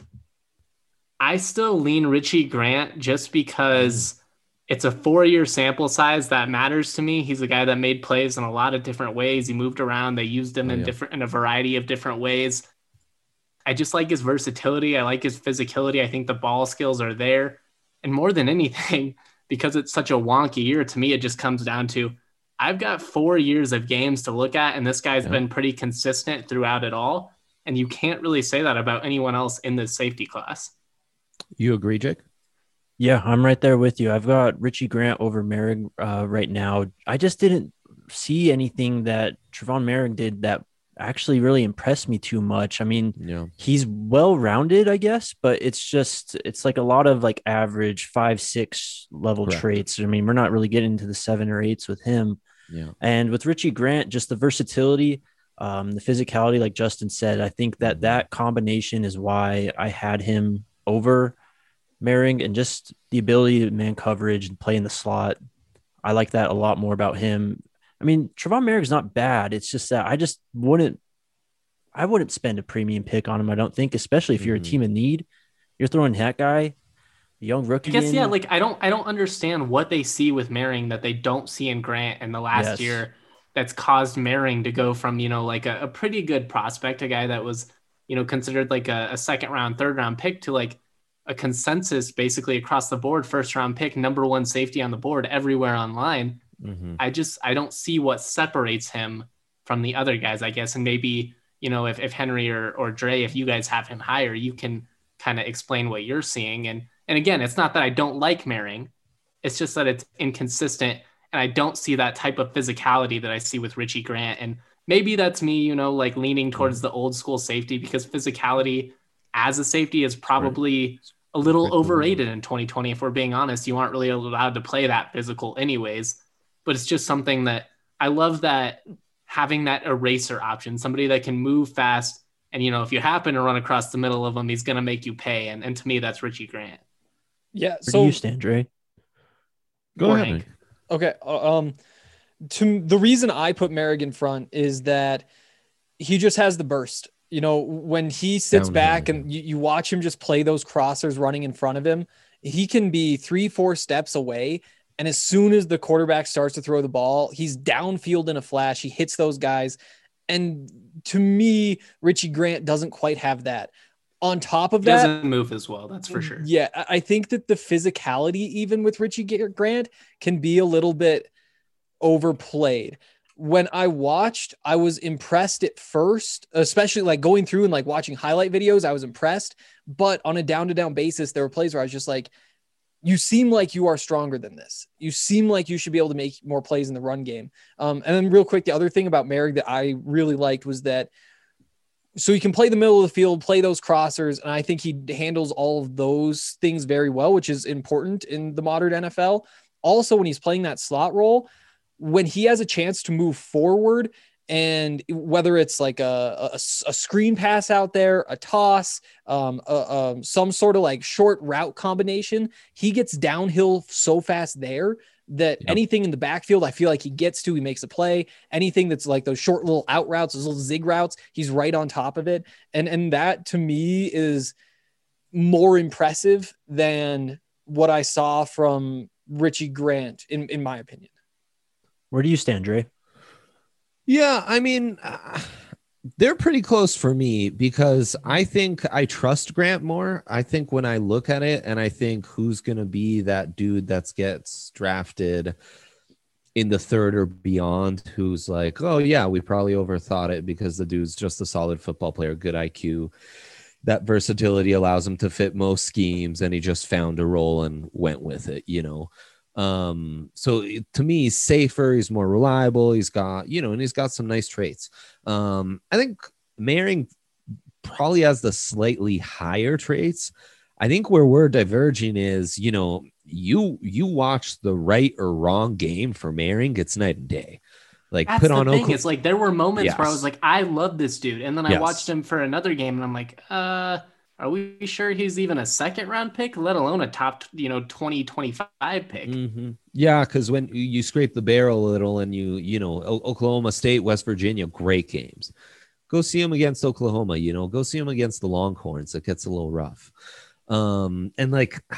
I still lean Richie Grant just because it's a four-year sample size that matters to me. He's a guy that made plays in a lot of different ways. He moved around. They used him
Oh,
in
yeah.
different in a variety of different ways. I just like his versatility. I like his physicality. I think the ball skills are there. And more than anything, because it's such a wonky year, to me, it just comes down to I've got four years of games to look at, and this guy's
Yeah.
been pretty consistent throughout it all. And you can't really say that about anyone else in this safety class.
You agree, Jake?
Yeah, I'm right there with you. I've got Richie Grant over Merrick uh, right now. I just didn't see anything that Trevon Merrick did that actually really impressed me too much. I mean,
Yeah.
he's well-rounded, I guess, but it's just, it's like a lot of like average five, six level
Correct.
traits. I mean, we're not really getting into the seven or eights with him.
Yeah.
And with Richie Grant, just the versatility, um, the physicality, like Justin said, I think that that combination is why I had him over Merrick, and just the ability to man coverage and play in the slot. I like that a lot more about him. I mean, Trevon Merrick is not bad. It's just that I just wouldn't, I wouldn't spend a premium pick on him. I don't think, especially if you're
Mhm.
a team in need, you're throwing that guy, a young rookie.
I guess,
in.
yeah, like I don't I don't understand what they see with Merrick that they don't see in Grant in the last
Yes.
year that's caused Merrick to go from, you know, like a, a pretty good prospect, a guy that was, you know, considered like a, a second round, third round pick, to like a consensus basically across the board, first round pick, number one safety on the board everywhere online.
Mm-hmm.
I just, I don't see what separates him from the other guys, I guess. And maybe, you know, if, if Henry or, or Dre, if you guys have him higher, you can kind of explain what you're seeing. And, and again, it's not that I don't like Merring. It's just that it's inconsistent. And I don't see that type of physicality that I see with Richie Grant. And maybe that's me, you know, like leaning towards the old school safety, because physicality as a safety is probably a little overrated in twenty twenty. If we're being honest, you aren't really allowed to play that physical anyways, but it's just something that I love, that having that eraser option, somebody that can move fast. And, you know, if you happen to run across the middle of them, he's going to make you pay. And, and to me, that's Richie Grant.
Yeah.
Where
So
do you stand, Dre?
Go
Or
ahead.
Hank.
Nick.
Okay. uh, Um, to the reason I put Merrick in front is that he just has the burst. You know, when he sits
Downhill.
back and you, you watch him just play those crossers running in front of him, he can be three, four steps away. And as soon as the quarterback starts to throw the ball, he's downfield in a flash. He hits those guys. And to me, Richie Grant doesn't quite have that. On top of
He
that,
doesn't move as well, that's for sure.
yeah, I I think that the physicality, even with Richie Grant, can be a little bit overplayed. When I watched, I was impressed at first, especially like going through and like watching highlight videos. I was impressed, but on a down to down basis, there were plays where I was just like, you seem like you are stronger than this. You seem like you should be able to make more plays in the run game. Um, and then real quick, the other thing about Merrick that I really liked was that, so he can play the middle of the field, play those crossers. And I think he handles all of those things very well, which is important in the modern N F L. Also, when he's playing that slot role, when he has a chance to move forward, and whether it's like a, a, a screen pass out there, a toss, um, a, um, some sort of like short route combination, he gets downhill so fast there that
Yep.
anything in the backfield, I feel like he gets to, he makes a play. Anything that's like those short little out routes, those little zig routes, he's right on top of it. And, and that to me is more impressive than what I saw from Richie Grant, in, in my opinion.
Where do you stand, Dre?
Yeah, I mean, uh, they're pretty close for me because I think I trust Grant more. I think when I look at it and I think who's going to be that dude that gets drafted in the third or beyond, who's like, oh, yeah, we probably overthought it because the dude's just a solid football player, good I Q. That versatility allows him to fit most schemes, and he just found a role and went with it, you know. Um, so it- to me, he's safer, he's more reliable, he's got, you know, and he's got some nice traits. Um, I think Merring probably has the slightly higher traits. I think where we're diverging is, you know, you you watch the right or wrong game for Merring, it's night and day. Like
That's
put
the
on
thing.
Okla-
It's like there were moments where I
Yes.
was like, I love this dude. And then I
Yes.
watched him for another game and I'm like, uh, are we sure he's even a second round pick, let alone a top, you know, twenty, twenty-five pick?
Mm-hmm. Yeah, because when you- you scrape the barrel a little and you, you know, O- Oklahoma State, West Virginia, great games. Go see them against Oklahoma, you know, go see them against the Longhorns. It gets a little rough. Um, and like, I-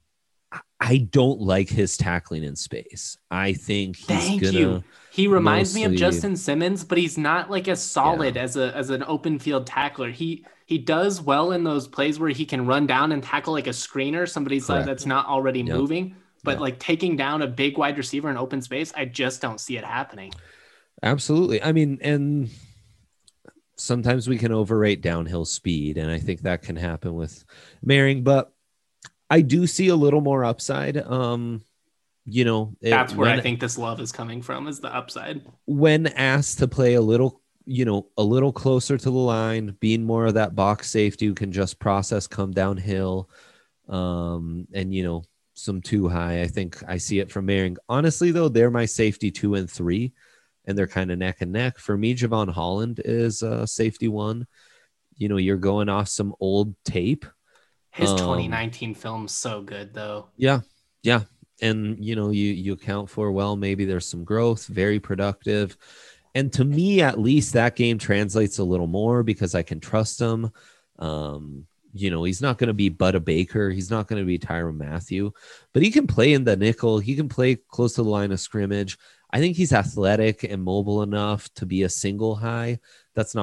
I don't like his tackling in space. I think he's
Thank
gonna.
you. He reminds me of
mostly-
Justin Simmons, but he's not like as solid as a as an open field tackler. He he does well in those plays where he can run down and tackle like a screener, somebody's
Correct.
that's not already
Yep.
moving. But
Yep.
like taking down a big wide receiver in open space, I just don't see it happening.
Absolutely. I mean, and sometimes we can overrate downhill speed, and I think that can happen with Merring, but I do see a little more upside. Um, you know, it-
That's where I
when-
think this love is coming from, is the upside.
when asked to play a little, you know, a little closer to the line, being more of that box safety who can just process, come downhill, um, and, you know, some too high. I think I see it from Merring. Honestly, though, they're my safety two and three, and they're kind of neck and neck. For me, Javon Holland is uh, safety one. You know, you're going off some old tape.
His
Um,
twenty nineteen film's so good though.
Yeah. Yeah. And, you know, you, you account for, well, maybe there's some growth, very productive. And to me, at least that game translates a little more because I can trust him. Um, you know, he's not going to be Budda Baker. He's not going to be Tyrann Mathieu, but he can play in the nickel. He can play close to the line of scrimmage. I think he's athletic and mobile enough to be a single high. That's not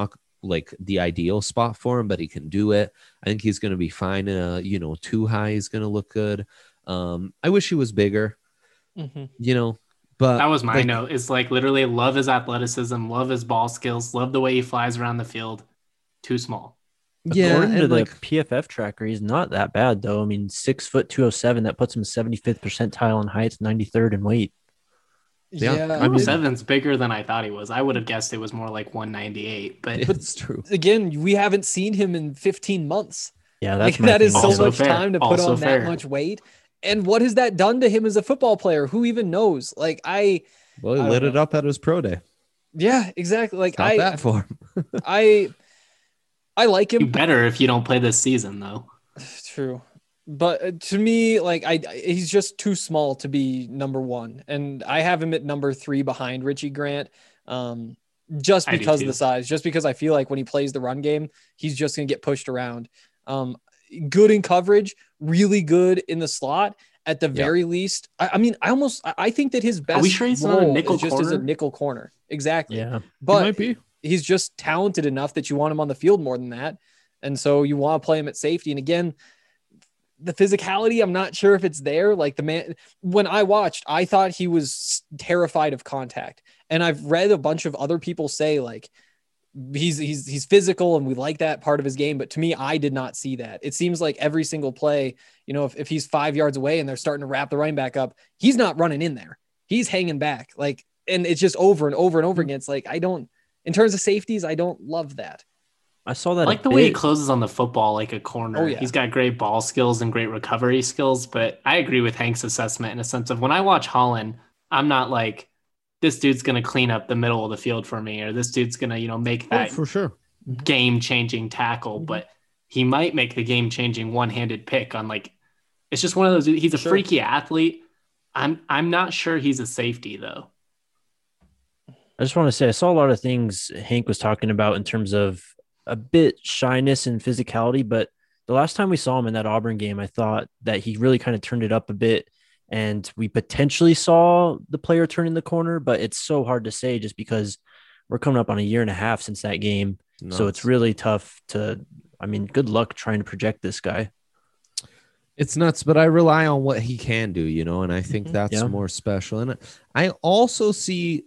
like the ideal spot for him, but he can do it. I think he's going to be fine. Uh, you know, too high is going to look good. Um, I wish he was bigger,
Mm-hmm.
you know, but
That was my
like,
note. It's like literally love his athleticism, love his ball skills, love the way he flies around the field. Too small.
yeah,
According to
and
the
like,
P F F tracker, he's not that bad though. I mean, six foot two oh seven. That puts him seventy-fifth percentile in height, ninety-third in weight.
Yeah,
Yeah,
I mean-
Seven's bigger than I thought he was. I would have guessed it was more like one ninety-eight, but
it's true.
again, we haven't seen him in fifteen months.
Yeah,
Like,
that's my
that is
thing.
so
Also
much
fair.
time to put
Also
on
fair.
that much weight. And what has that done to him as a football player? Who even knows? Like I,
Well, he
I
lit
don't
it
know.
up at his pro day.
yeah, exactly. Like
Not
I,
bad for him.
I, I like
you
him.
better if you don't play this season, though.
True, but uh, to me, like I, he's just too small to be number one, and I have him at number three behind Richie Grant. Um, just
I do
because of
too.
the size, just because I feel like when he plays the run game, he's just gonna get pushed around. Um, good in coverage, really good in the slot. At the
Yeah.
very least, I, I mean, I almost I I think that his best
we sure he's not a
role
nickel
is just as a
corner?
nickel corner. Exactly.
Yeah.
But
might be.
he's just talented enough that you want him on the field more than that. And so you want to play him at safety. And again, the physicality, I'm not sure if it's there. Like the man, when I watched, I thought he was terrified of contact. And I've read a bunch of other people say like, he's, he's, he's physical and we like that part of his game. But to me, I did not see that. It seems like every single play, you know, if, if he's five yards away and they're starting to wrap the running back up, he's not running in there. He's hanging back. Like, and it's just over and over and over again. It's like, I don't, in terms of safeties, I don't love that.
I saw that.
I
a
like the way he
bit.
closes on the football like a corner.
Oh, yeah.
He's got great ball skills and great recovery skills, but I agree with Hank's assessment in a sense of when I watch Holland, I'm not like, this dude's going to clean up the middle of the field for me, or this dude's going to, you know, make
Oh,
that
for sure.
game-changing tackle, but he might make the game-changing one-handed pick on like, it's just one of those, he's a
Sure.
freaky athlete. I'm, I'm not sure he's a safety though.
I just want to say I saw a lot of things Hank was talking about in terms of a bit shyness and physicality, but the last time we saw him in that Auburn game, I thought that he really kind of turned it up a bit, and we potentially saw the player turn in the corner, but it's so hard to say just because we're coming up on a year and a half since that game. So
Nuts.
it's really tough to, I mean, good luck trying to project this guy.
It's nuts, but I rely on what he can do, you know, and I think
Mhm.
that's
Yeah.
more special. And I also see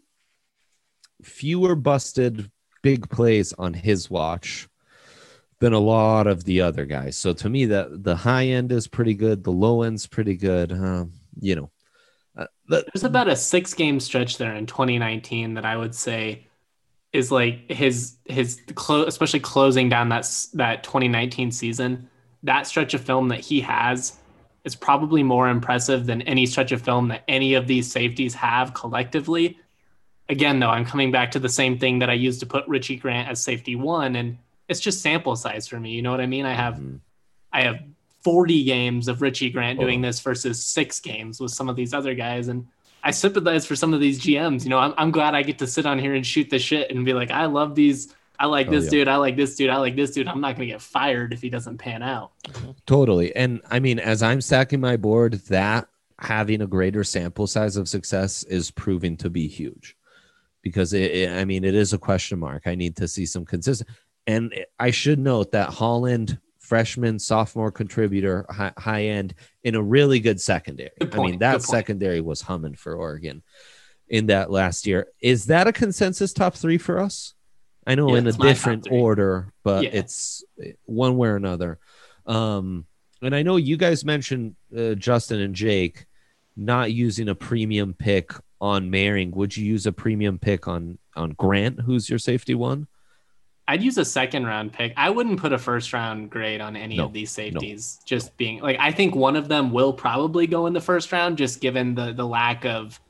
fewer busted big plays on his watch than a lot of the other guys. So to me, that the high end is pretty good, the low end's pretty good. Um, you know, uh, the,
There's about a six game stretch there in twenty nineteen that I would say is like his his clo- especially closing down that s- that twenty nineteen season. That stretch of film that he has is probably more impressive than any stretch of film that any of these safeties have collectively. Again, though, I'm coming back to the same thing that I used to put Richie Grant as safety one, and it's just sample size for me. You know what I mean? I have
Mhm.
I have forty games of Richie Grant doing
Oh.
this versus six games with some of these other guys. And I sympathize for some of these G Ms. You know, I'm, I'm glad I get to sit on here and shoot the shit and be like, I love these. I like
Oh,
this
yeah.
dude. I like this dude. I like this dude. I'm not going to get fired if he doesn't pan out.
Totally. And I mean, as I'm stacking my board, that having a greater sample size of success is proving to be huge because it, it- I mean, it is a question mark. I need to see some consistent. And I should note that Holland, freshman, sophomore contributor, high, high end in a really good secondary.
Good
I
point,
mean, that
good point.
secondary was humming for Oregon in that last year. Is that a consensus top three for us? I know
Yeah,
in a
it's my top
different
three.
order, but
Yeah.
it's one way or another. Um, and I know you guys mentioned uh, Justin and Jake not using a premium pick on Maring. Would you use a premium pick on on Grant, who's your safety one?
I'd use a second round pick. I wouldn't put a first round grade on any
No,
of these safeties. Just being like, I think one of them will probably go in the first round, just given the the lack of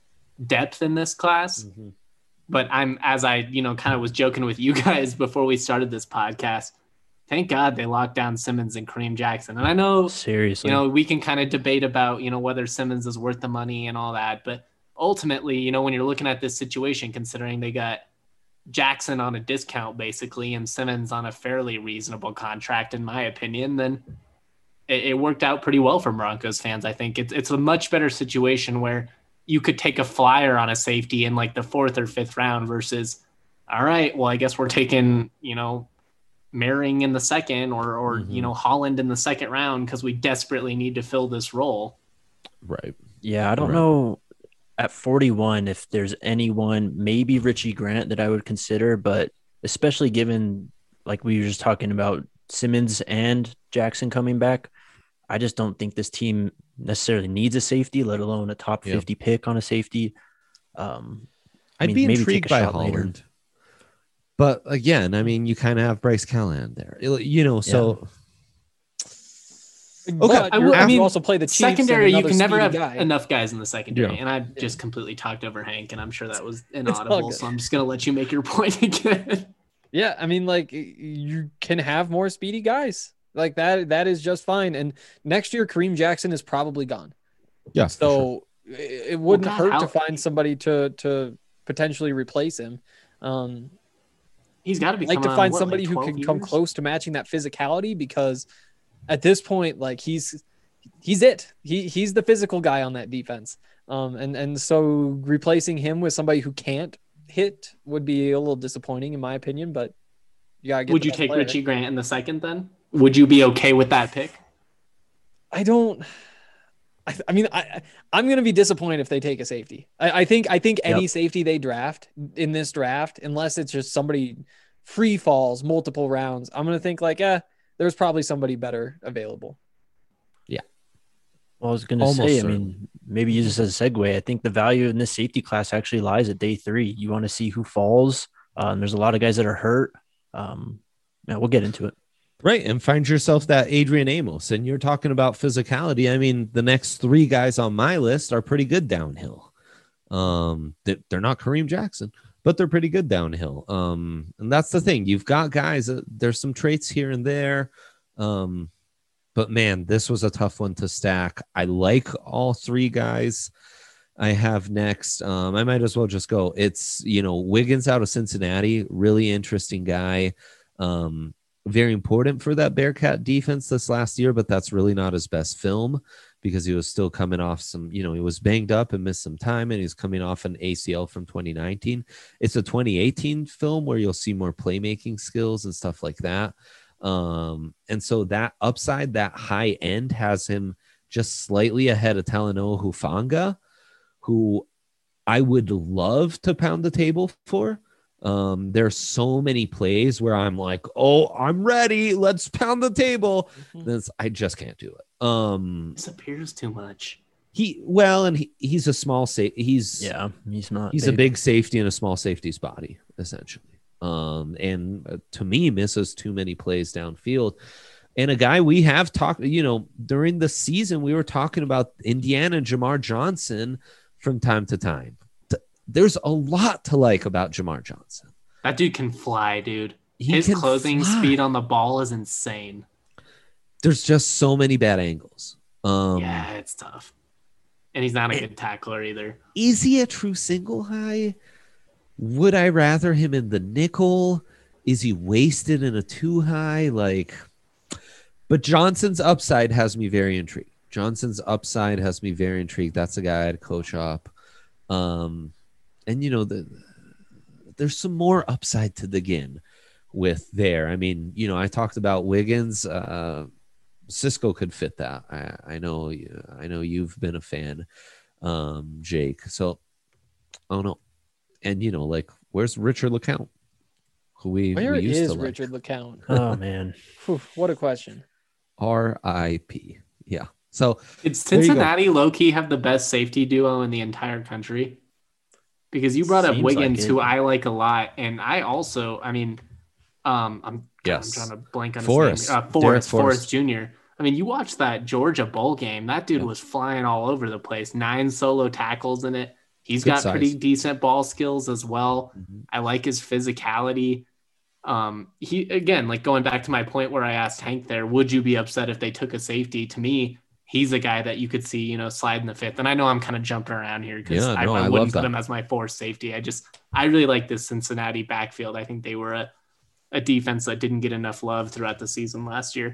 depth in this class. But I'm, as I, you know, kind of was joking with you guys before we started this podcast. Thank God they locked down Simmons and Kareem Jackson. And I know,
Seriously.
you know, we can kind of debate about, you know, whether Simmons is worth the money and all that. But ultimately, you know, when you're looking at this situation, considering they got Jackson on a discount basically and Simmons on a fairly reasonable contract, in my opinion, then it, it worked out pretty well for Broncos fans. I think it's it's a much better situation where you could take a flyer on a safety in like the fourth or fifth round versus all right, well, I guess we're taking, you know, Merring in the second or, or
Mhm.
you know, Holland in the second round because we desperately need to fill this role.
Right.
Yeah, I don't
Right.
know at forty-one if there's anyone, maybe Richie Grant, that I would consider, but especially given, like we were just talking about, Simmons and Jackson coming back, I just don't think this team necessarily needs a safety, let alone a top
Yeah.
fifty pick on a safety. Um, I
I'd
mean,
be
maybe take
intrigued
a
by
shot later.
Holland. But again, I mean, you kind of have Bryce Callahan there, you know, so
But
I
you're-
will- I
you
mean,
also play the Chiefs and
Secondary, you
another
can never
speedy
have
guy.
enough guys in the secondary.
Yeah.
And I
Yeah.
just completely talked over Hank, and I'm sure that was
all
inaudible.
good.
So I'm just going to let you make your point again.
Yeah, I mean, like y- you can have more speedy guys like that. That is just fine. And next year, Kareem Jackson is probably gone.
yeah. for sure.
So it, it wouldn't
God,
hurt
how-
to find somebody to to potentially replace him. Um,
He's got to be
like to
coming on,
find
what,
somebody
like
who
twelve
can come
years?
close to matching that physicality, because at this point, like he's he's it. He he's the physical guy on that defense. Um, and and so replacing him with somebody who can't hit would be a little disappointing in my opinion. But you gotta get
Would
the
you
best
take
player.
Richie Grant in the second then? Would you be okay with that pick?
I don't. I, I mean, I I'm gonna be disappointed if they take a safety. I, I think I think any
Yep.
safety they draft in this draft, unless it's just somebody free falls multiple rounds, I'm gonna think like, eh, there's probably somebody better available.
Well, I was going to
Almost
say, I
certainly.
mean, maybe use this as a segue. I think the value in this safety class actually lies at day three. You want to see who falls. Um, there's a lot of guys that are hurt. Um, yeah, we'll get into it.
Right. And find yourself that Adrian Amos. And you're talking about physicality. I mean, the next three guys on my list are pretty good downhill. Um, they- they're not Kareem Jackson, but they're pretty good downhill. Um, and that's the thing. You've got guys, that, there's some traits here and there. Um, but man, this was a tough one to stack. I like all three guys I have next. Um, I might as well just go. It's, you know, Wiggins out of Cincinnati, really interesting guy. Um, very important for that Bearcat defense this last year, but that's really not his best film because he was still coming off some, you know, he was banged up and missed some time, and he's coming off an A C L from twenty nineteen. It's a twenty eighteen film where you'll see more playmaking skills and stuff like that. Um, and so that upside, that high end has him just slightly ahead of Talanoa Hufanga, who I would love to pound the table for. Um, there's so many plays where I'm like, oh, I'm ready. Let's pound the table.
Mhm.
This, I just can't do it. Um,
Disappears too much.
he, well, and he, he's a small safe. He's,
Yeah, he's not.
he's a big safety in a small safety's body, essentially. Um, and uh, to me, misses too many plays downfield. And a guy we have talked, you know, during the season, we were talking about Indiana Jamar Johnson from time to time. Th- There's a lot to like about Jamar Johnson.
That dude can fly, dude.
He
His
can
closing
fly.
speed on the ball is insane.
There's just so many bad angles. Um,
yeah, it's tough. And he's not a good tackler either.
Is he a true single high? Would I rather him in the nickel? Is he wasted in a two high? Like, but Johnson's upside has me very intrigued. Johnson's upside has me very intrigued. That's a guy I'd coach up. Um, and you know, the there's some more upside to dig in with there. I mean, you know, I talked about Wiggins. Uh, Cisco could fit that. I, I know. I know you've been a fan, um, Jake. So, I don't know. And you know, like, where's Richard LeCount? Who we,
Where
we used
is
to like.
Richard LeCount?
Oh, man.
Phew, what a question.
R I P. Yeah. So
Did
There you go.
Cincinnati low key have the best safety duo in the entire country? Because you brought up
Seems like
Wiggins,
it.
who I like a lot, and I also, I mean, um, I'm,
Yes.
I'm trying to blank on his
Forrest.
name. Uh,
Derek
Forrest,
Forrest.
Forrest Junior I mean, you watch that Georgia bowl game. That dude
Yeah.
was flying all over the place. Nine solo tackles in it. He's
Good
got
size.
pretty decent ball skills as well.
Mhm.
I like his physicality. Um, he again, like going back to my point where I asked Hank there, would you be upset if they took a safety? To me, he's a guy that you could see, you know, slide in the fifth. And I know I'm kind of jumping around here because
Yeah,
I,
no,
I
I love
wouldn't put
that.
him as my fourth safety. I just I really like this Cincinnati backfield. I think they were a, a defense that didn't get enough love throughout the season last year,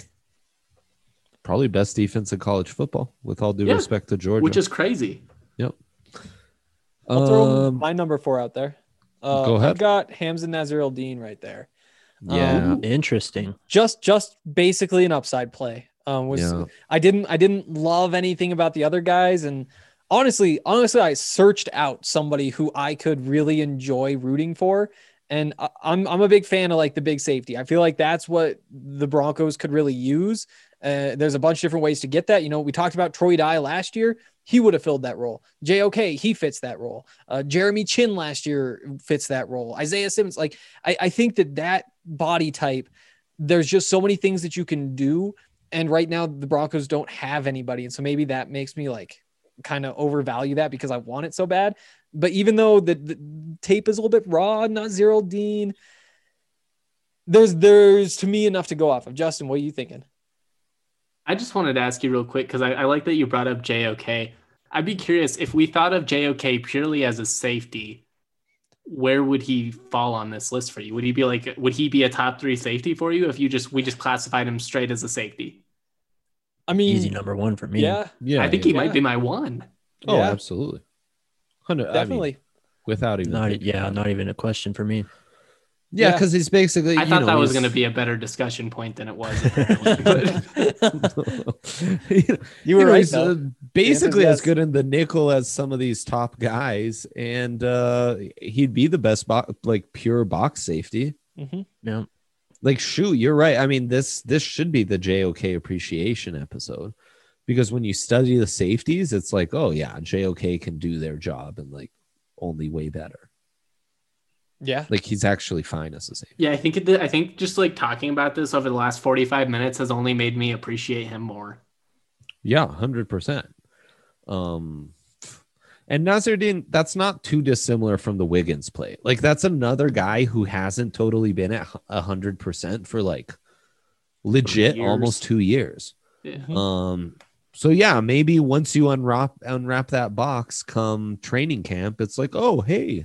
Probably best defense in college football, with all due
Yeah,
respect to Georgia.
which is crazy.
Yep.
I'll throw
Um,
my number four out there. Uh,
Go ahead.
I've got Hamza Nazir-Dean right there.
Yeah.
Um,
Interesting.
just just basically an upside play. Um, was
Yeah.
I didn't I didn't love anything about the other guys, and honestly, honestly, I searched out somebody who I could really enjoy rooting for, and I, I'm I'm a big fan of like the big safety. I feel like that's what the Broncos could really use. Uh, there's a bunch of different ways to get that. You know, we talked about Troy Dye last year. He would have filled that role. J O K, he fits that role. Uh, Jeremy Chin last year fits that role. Isaiah Simmons, like I, I think that that body type, there's just so many things that you can do. And right now the Broncos don't have anybody. And so maybe that makes me like kind of overvalue that because I want it so bad. But even though the, the tape is a little bit raw, not zero Dean, there's, there's to me enough to go off of. Justin, what are you thinking?
I just wanted to ask you real quick because I, I like that you brought up J O K. I'd be curious if we thought of J O K purely as a safety, where would he fall on this list for you? Would he be like, would he be a top three safety for you if you just we just classified him straight as a safety?
I mean,
Easy number one for me.
yeah,
Yeah.
I think he
yeah.
might be my one.
Oh,
Yeah.
absolutely. Hundred
definitely.
I mean, without even.
Not
thinking
yeah,
about
not even a question for me.
it. Yeah,
Yeah.
because he's basically.
I
you
thought
know,
that was
he's-
going to be a better discussion point than it was. Apparently.
you
You were
know,
right,
he's,
though.
uh, basically as
yes.
good in the nickel as some of these top guys, and uh, he'd be the best bo- like pure box safety.
Mhm.
Yeah.
Like, shoot, you're right. I mean, this this should be the J O K appreciation episode, because when you study the safeties, it's like, oh yeah, J O K can do their job and like only way better.
Yeah.
Like he's actually fine as a safety.
Yeah, I think it, I think just like talking about this over the last forty-five minutes has only made me appreciate him more.
Yeah, one hundred percent. Um, and Nazardine, that's not too dissimilar from the Wiggins play. Like that's another guy who hasn't totally been at one hundred percent for like legit
Years.
almost two years.
Yeah.
Mhm.
Um, so yeah, maybe once you unwrap unwrap that box come training camp, it's like, oh hey,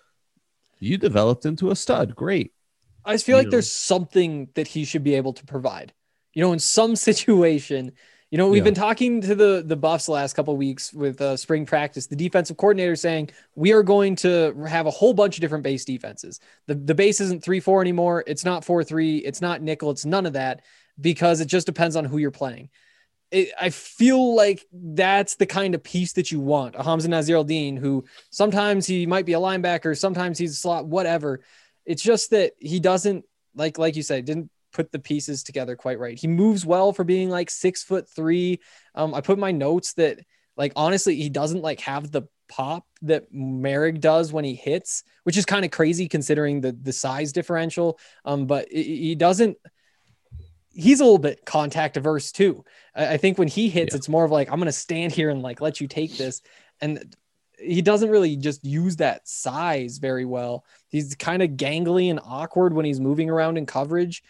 you developed into a stud. Great.
I just feel like
You know.
there's something that he should be able to provide. You know, in some situation, you know, we've
Yeah.
been talking to the the Buffs the last couple of weeks with uh, spring practice. The defensive coordinator saying we are going to have a whole bunch of different base defenses. The the base isn't three four anymore. It's not four three. It's not nickel. It's none of that because it just depends on who you're playing. It, I feel like that's the kind of piece that you want. A Hamza Nazir-Dean, who sometimes he might be a linebacker, sometimes he's a slot, whatever. It's just that he doesn't, like like you said, didn't put the pieces together quite right. He moves well for being like six foot three. Um, I put in my notes that like honestly, he doesn't like have the pop that Merrick does when he hits, which is kind of crazy considering the the size differential. Um, but it, he doesn't. He's a little bit contact averse too. I, I think when he hits,
Yeah.
it's more of like I'm gonna stand here and like let you take this, and he doesn't really just use that size very well. He's kind of gangly and awkward when he's moving around in coverage,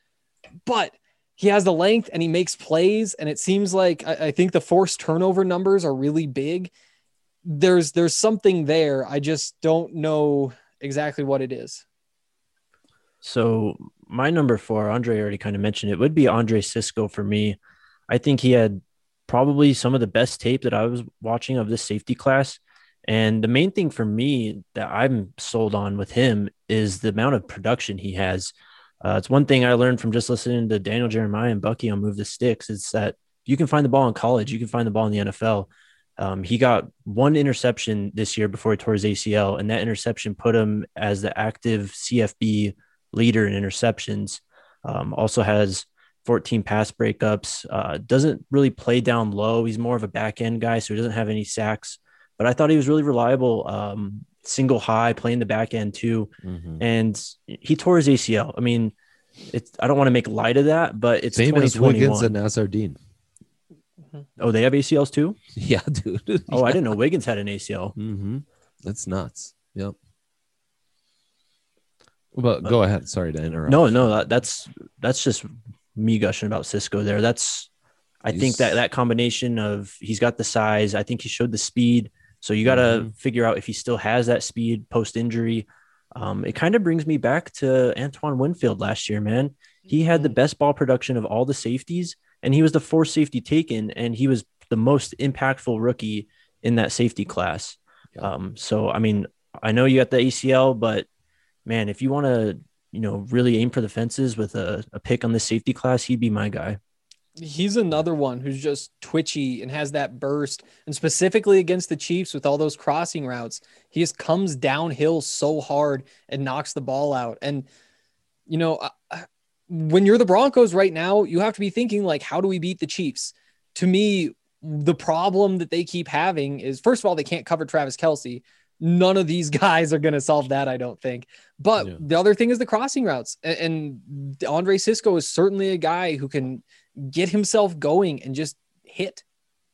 but he has the length and he makes plays. And it seems like, I, I think the forced turnover numbers are really big. There's, there's something there. I just don't know exactly what it is.
So my number four, Andre already kind of mentioned it, would be Andre Cisco for me. I think he had probably some of the best tape that I was watching of this safety class. And the main thing for me that I'm sold on with him is the amount of production he has. Uh, it's one thing I learned from just listening to Daniel Jeremiah and Bucky on Move the Sticks is that you can find the ball in college, you can find the ball in the N F L. Um, he got one interception this year before he tore his A C L, and that interception put him as the active C F B leader in interceptions. Um, also has fourteen pass breakups, uh, doesn't really play down low. He's more of a back end guy, so he doesn't have any sacks, but I thought he was really reliable. Um, single high, playing the back end too.
Mhm.
And he tore his A C L. I mean, it's, I don't want to make light of that, but it's
Same as Wiggins and
twenty twenty-one.
Nazardine.
Oh, they have A C Ls too?
Yeah, dude.
Oh, I didn't know Wiggins had an A C L.
Mm-hmm. That's nuts. Yep. But go ahead. Sorry to interrupt.
No, no, that, that's that's just me gushing about Cisco there. That's I think
He's-
that that combination of he's got the size. I think he showed the speed. So you got to
Mhm.
figure out if he still has that speed post injury. Um, it kind of brings me back to Antoine Winfield last year, man. He had the best ball production of all the safeties, and he was the fourth safety taken, and he was the most impactful rookie in that safety class.
Yeah.
Um, so, I mean, I know you got the A C L, but man, if you want to, you know, really aim for the fences with a, a pick on the safety class, he'd be my guy.
He's another one who's just twitchy and has that burst. And specifically against the Chiefs with all those crossing routes, he just comes downhill so hard and knocks the ball out. And, you know, when you're the Broncos right now, you have to be thinking, like, how do we beat the Chiefs? To me, the problem that they keep having is, first of all, they can't cover Travis Kelce. None of these guys are going to solve that, I don't think. But yeah. The other thing is the crossing routes. And, and Andre Cisco is certainly a guy who can get himself going and just hit.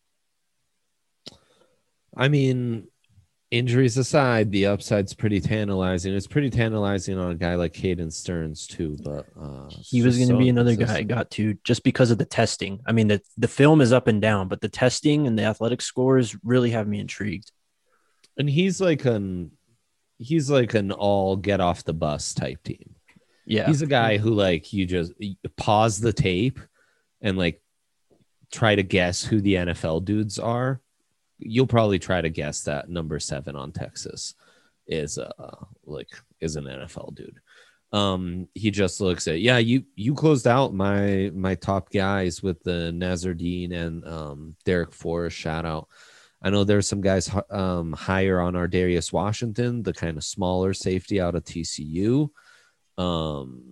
I mean, injuries aside, the upside's pretty tantalizing. It's pretty tantalizing on a guy like Caden Stearns too, but uh,
he was going to so be another guy I got to just because of the testing. I mean, the, the film is up and down, but the testing and the athletic scores really have me intrigued.
And he's like an he's like an all get off the bus type team.
Yeah.
He's a guy who, like, you just you pause the tape and like try to guess who the N F L dudes are. You'll probably try to guess that number seven on Texas is uh like is an N F L dude. Um, he just looks at, yeah, you you closed out my my top guys with the Nazardine and um Derek Forrest shout out. I know there's some guys um higher on our Darius Washington, the kind of smaller safety out of T C U. Um,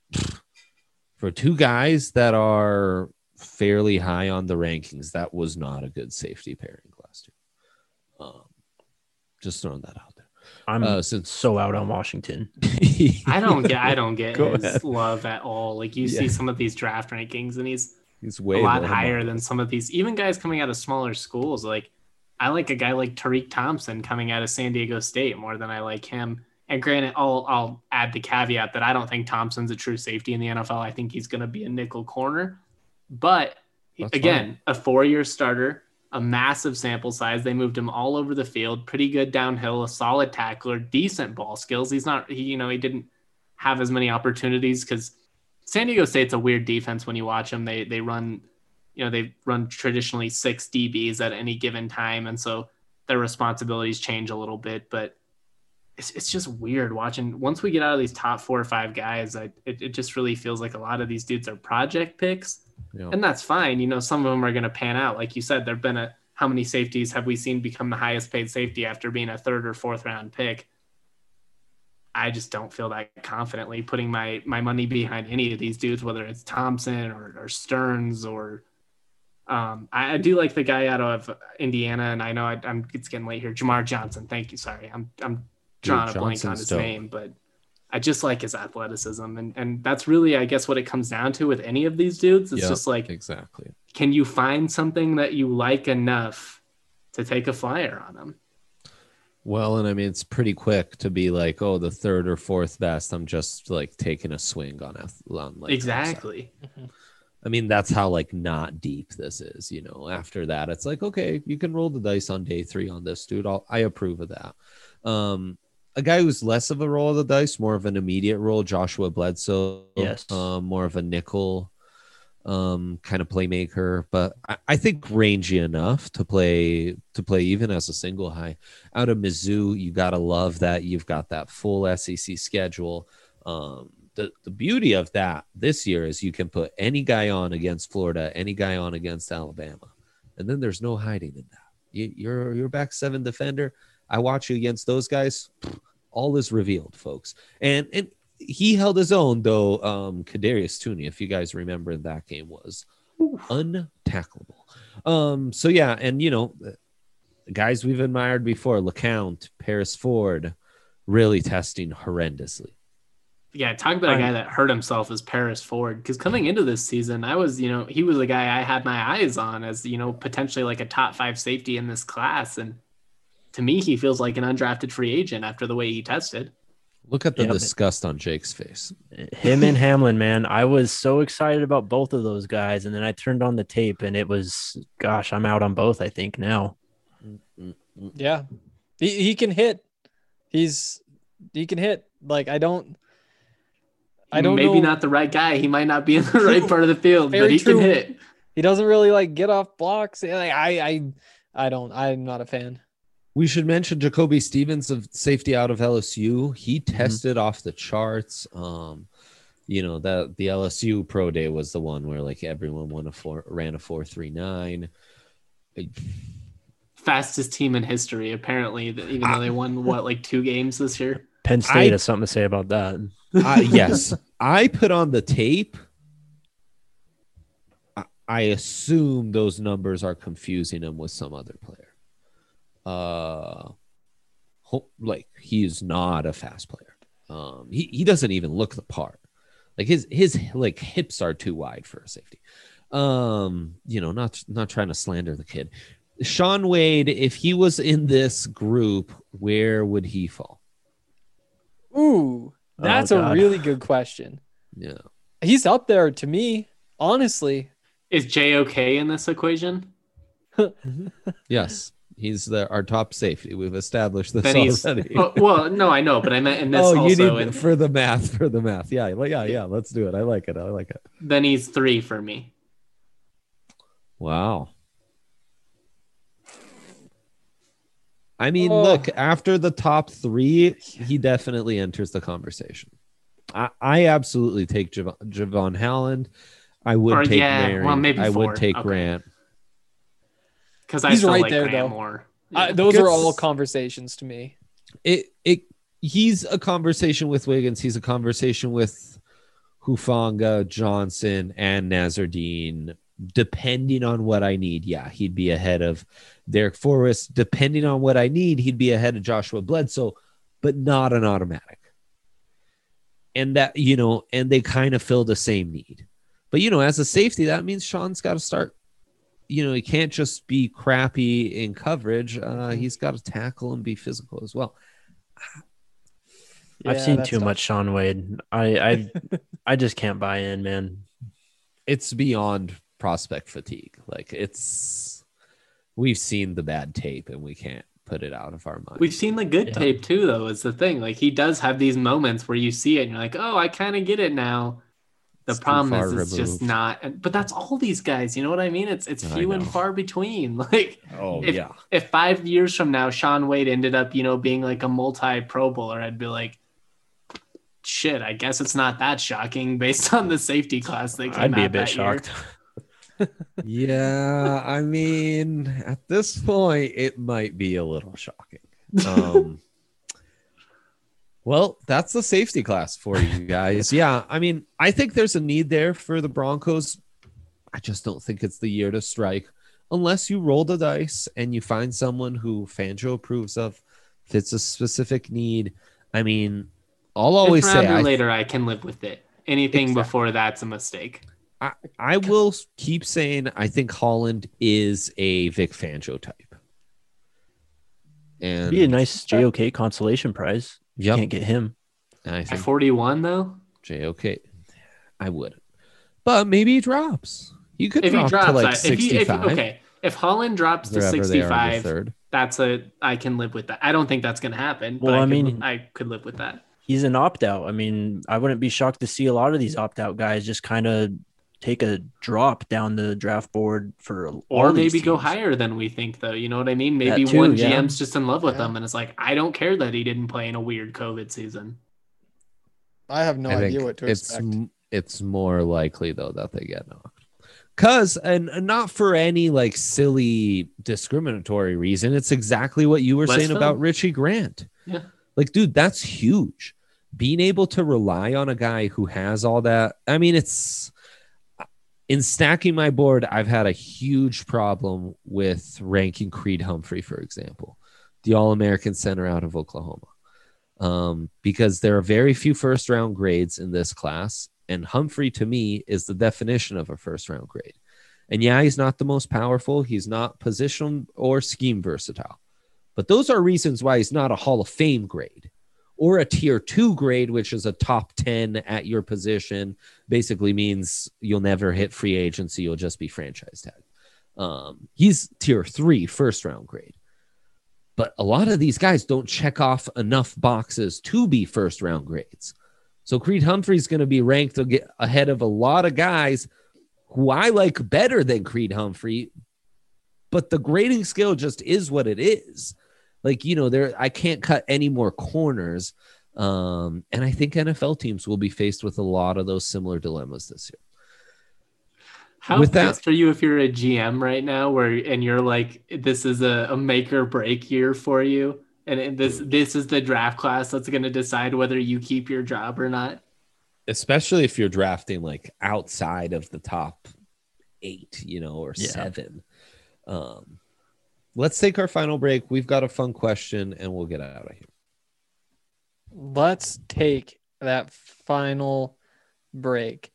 for two guys that are fairly high on the rankings, that was not a good safety pairing last year. Um, just throwing that out there.
I'm
uh, since
so out on Washington.
I don't get I don't get
Go
his
ahead.
love at all. Like you
Yeah.
see some of these draft rankings and he's
he's way
a lot
low
higher
on
than
this.
some of these, even guys coming out of smaller schools. Like I like a guy like Tariq Thompson coming out of San Diego State more than I like him. And granted, I'll I'll add the caveat that I don't think Thompson's a true safety in the N F L. I think he's going to be a nickel corner. But
That's
again,
fine.
a four-year starter, a massive sample size. They moved him all over the field, pretty good downhill, a solid tackler, decent ball skills. He's not, he, you know, he didn't have as many opportunities because San Diego State's a weird defense when you watch them. They they run, you know, they run traditionally six D Bs at any given time, and so their responsibilities change a little bit. But it's it's just weird watching. Once we get out of these top four or five guys, I, it it just really feels like a lot of these dudes are project picks.
Yeah.
And that's fine. You know, some of them are going to pan out. Like you said, there've been a, how many safeties have we seen become the highest paid safety after being a third or fourth round pick? I just don't feel that confidently putting my, my money behind any of these dudes, whether it's Thompson or, or Stearns or um, I, I do like the guy out of Indiana. And I know I, I'm, it's getting late here. Jamar Johnson. Thank you. Sorry. I'm, I'm drawing
Dude,
a blank on
Johnson's
his
dope.
name, but I just like his athleticism. And, and that's really, I guess, what it comes down to with any of these dudes. It's
Yep,
just like,
exactly.
can you find something that you like enough to take a flyer on them?
Well, and I mean, it's pretty quick to be like, oh, the third or fourth best. I'm just like taking a swing on, ath- on like
Exactly.
I mean, that's how like not deep this is, you know. After that, it's like, okay, you can roll the dice on day three on this dude. I'll, I approve of that. Um, a guy who's less of a roll of the dice, more of an immediate roll, Joshua Bledsoe.
Yes.
Um, more of a nickel um, kind of playmaker, but I, I think rangy enough to play to play even as a single high. Out of Mizzou, you gotta love that you've got that full S E C schedule. Um, the the beauty of that this year is you can put any guy on against Florida, any guy on against Alabama, and then there's no hiding in that. You, you're you're back seven defender. I watch you against those guys. All is revealed, folks. And and he held his own, though. Um, Kadarius Toney, if you guys remember, that game was untackleable. Um, so yeah, and you know, guys we've admired before, LeCount, Paris Ford, really testing horrendously.
Yeah, talk about a guy that hurt himself as Paris Ford. Because coming into this season, I was, you know, he was a guy I had my eyes on as, you know, potentially like a top five safety in this class. And to me, he feels like an undrafted free agent after the way he tested.
Look at the
Yeah, but-
disgust on Jake's face.
Him and Hamlin, man, I was so excited about both of those guys, and then I turned on the tape, and it was, gosh, I'm out on both. I think now.
Yeah. He, he can hit. He's, he can hit. Like, I don't, I don't
Maybe
know.
not the right guy. He might not be in the right part of the field,
Very
but he
true.
can hit.
He doesn't really like get off blocks. Like, I, I, I don't, I'm not a fan.
We should mention Jacoby Stevens of safety out of L S U. He tested mm-hmm. off the charts. Um, you know, that the L S U pro day was the one where like everyone won a four, ran a four three nine.
Fastest team in history, apparently, even though they won what, like two games this year.
Penn State
I,
has something to say about that.
Uh, yes, I put on the tape. I, I assume those numbers are confusing him with some other player. Uh, like he is not a fast player. Um, he he doesn't even look the part. Like his his like hips are too wide for a safety. Um, you know, not not trying to slander the kid. Shaun Wade, if he was in this group, where would he fall?
Ooh, that's
oh,
a really good question.
Yeah,
he's up there to me, honestly.
Is J O K in this equation?
Yes. He's the our top safety. We've established this
then he's,
already.
Oh, well, no, I know, but I meant in this
oh,
also.
you need
in,
for the math, for the math. Yeah, yeah, yeah. Let's do it. I like it. I like it.
Then he's three for me.
Wow. I mean,
oh.
look, after the top three, he definitely enters the conversation. I, I absolutely take Javon, Javon Holland. I would
or,
take
yeah,
Mary.
well, maybe
I
four.
would take
okay.
Grant.
Because I
He's
still
right
like
there,
Grant
though.
more.
Uh,
Yeah.
those
Gets-
are all conversations to me.
It it he's a conversation with Wiggins. He's a conversation with Hufanga, Johnson, and Nazardine. Depending on what I need, yeah, he'd be ahead of Derek Forrest. Depending on what I need, he'd be ahead of Joshua Bledsoe, but not an automatic. And that, you know, and they kind of fill the same need. But, you know, as a safety, that means Sean's got to start. You know, he can't just be crappy in coverage. Uh, he's got to tackle and be physical as well.
I've
Yeah,
seen
that's
too
tough.
much Shaun Wade. I I I just can't buy in, man.
It's beyond prospect fatigue. Like it's, we've seen the bad tape and we can't put it out of our mind.
We've seen the good
Yeah.
tape too, though, is the thing. Like he does have these moments where you see it and you're like, oh, I kind of get it now. The
It's too
problem
far
is it's just
removed.
not, but that's all these guys, you know what I mean? It's it's
I
few and
know.
far between. Like
Oh,
if,
yeah.
if five years from now Shaun Wade ended up, you know, being like a multi Pro Bowler, I'd be like, shit, I guess it's not that shocking based on the safety class they came
I'd be
out
a bit
that year.
shocked.
Yeah, I mean, at this point, it might be a little shocking. Um, well, that's the safety class for you guys. Yeah, I mean, I think there's a need there for the Broncos. I just don't think it's the year to strike unless you roll the dice and you find someone who Fangio approves of, fits a specific need. I mean, I'll always
Fifth
say
rounder
I,
later, I can live with it. Anything
Exactly.
before that's a mistake.
I, I will keep saying I think Holland is a Vic Fangio type. And
Be a nice J O K consolation prize.
Yep.
Can't get him.
and I
At
think
forty-one, though,
J O K, I wouldn't. But maybe he drops. You could
if he
drop
drops,
to like
I- if he, if,
sixty-five.
okay, if Holland drops to
wherever they are in the
sixty-five,
third.
that's a I can live with that. I don't think that's going to happen.
Well,
but I,
I
could,
mean-
I could live with that.
He's an opt out. I mean, I wouldn't be shocked to see a lot of these opt out guys just kind of take a drop down the draft board for all
Or
these
maybe go
teams.
higher than we think, though. You know what I mean? Maybe
That too,
one
yeah.
G M's just in love with
Yeah.
him, and it's like, I don't care that he didn't play in a weird COVID season.
I have no
I
idea
think
what to
it's
expect.
m- it's more likely though that they get knocked. Cause and, and not for any like silly discriminatory reason. It's exactly what you were
Let's
saying
film.
about Richie Grant.
Yeah.
Like, dude, that's huge. Being able to rely on a guy who has all that. I mean, it's in stacking my board. I've had a huge problem with ranking Creed Humphrey, for example, the All-American center out of Oklahoma, um, because there are very few first round grades in this class. And Humphrey, to me, is the definition of a first round grade. And yeah, he's not the most powerful. He's not position or scheme versatile. But those are reasons why he's not a Hall of Fame grade or a tier two grade, which is a top ten at your position. Basically means you'll never hit free agency. You'll just be franchise tag. Um, he's tier three first round grade. But a lot of these guys don't check off enough boxes to be first round grades. So Creed Humphrey's going to be ranked ahead of a lot of guys who I like better than Creed Humphrey, but the grading scale just is what it is. Like, you know, there I can't cut any more corners. Um, and I think N F L teams will be faced with a lot of those similar dilemmas this year.
How
With that-
pissed are you if you're a G M right now, where and you're like, this is a, a make or break year for you, and it- this this is the draft class that's going to decide whether you keep your job or not?
Especially if you're drafting like outside of the top eight, you know, or
Yeah.
seven. Um, let's take our final break. We've got a fun question, and we'll get out of here.
Let's take that final break.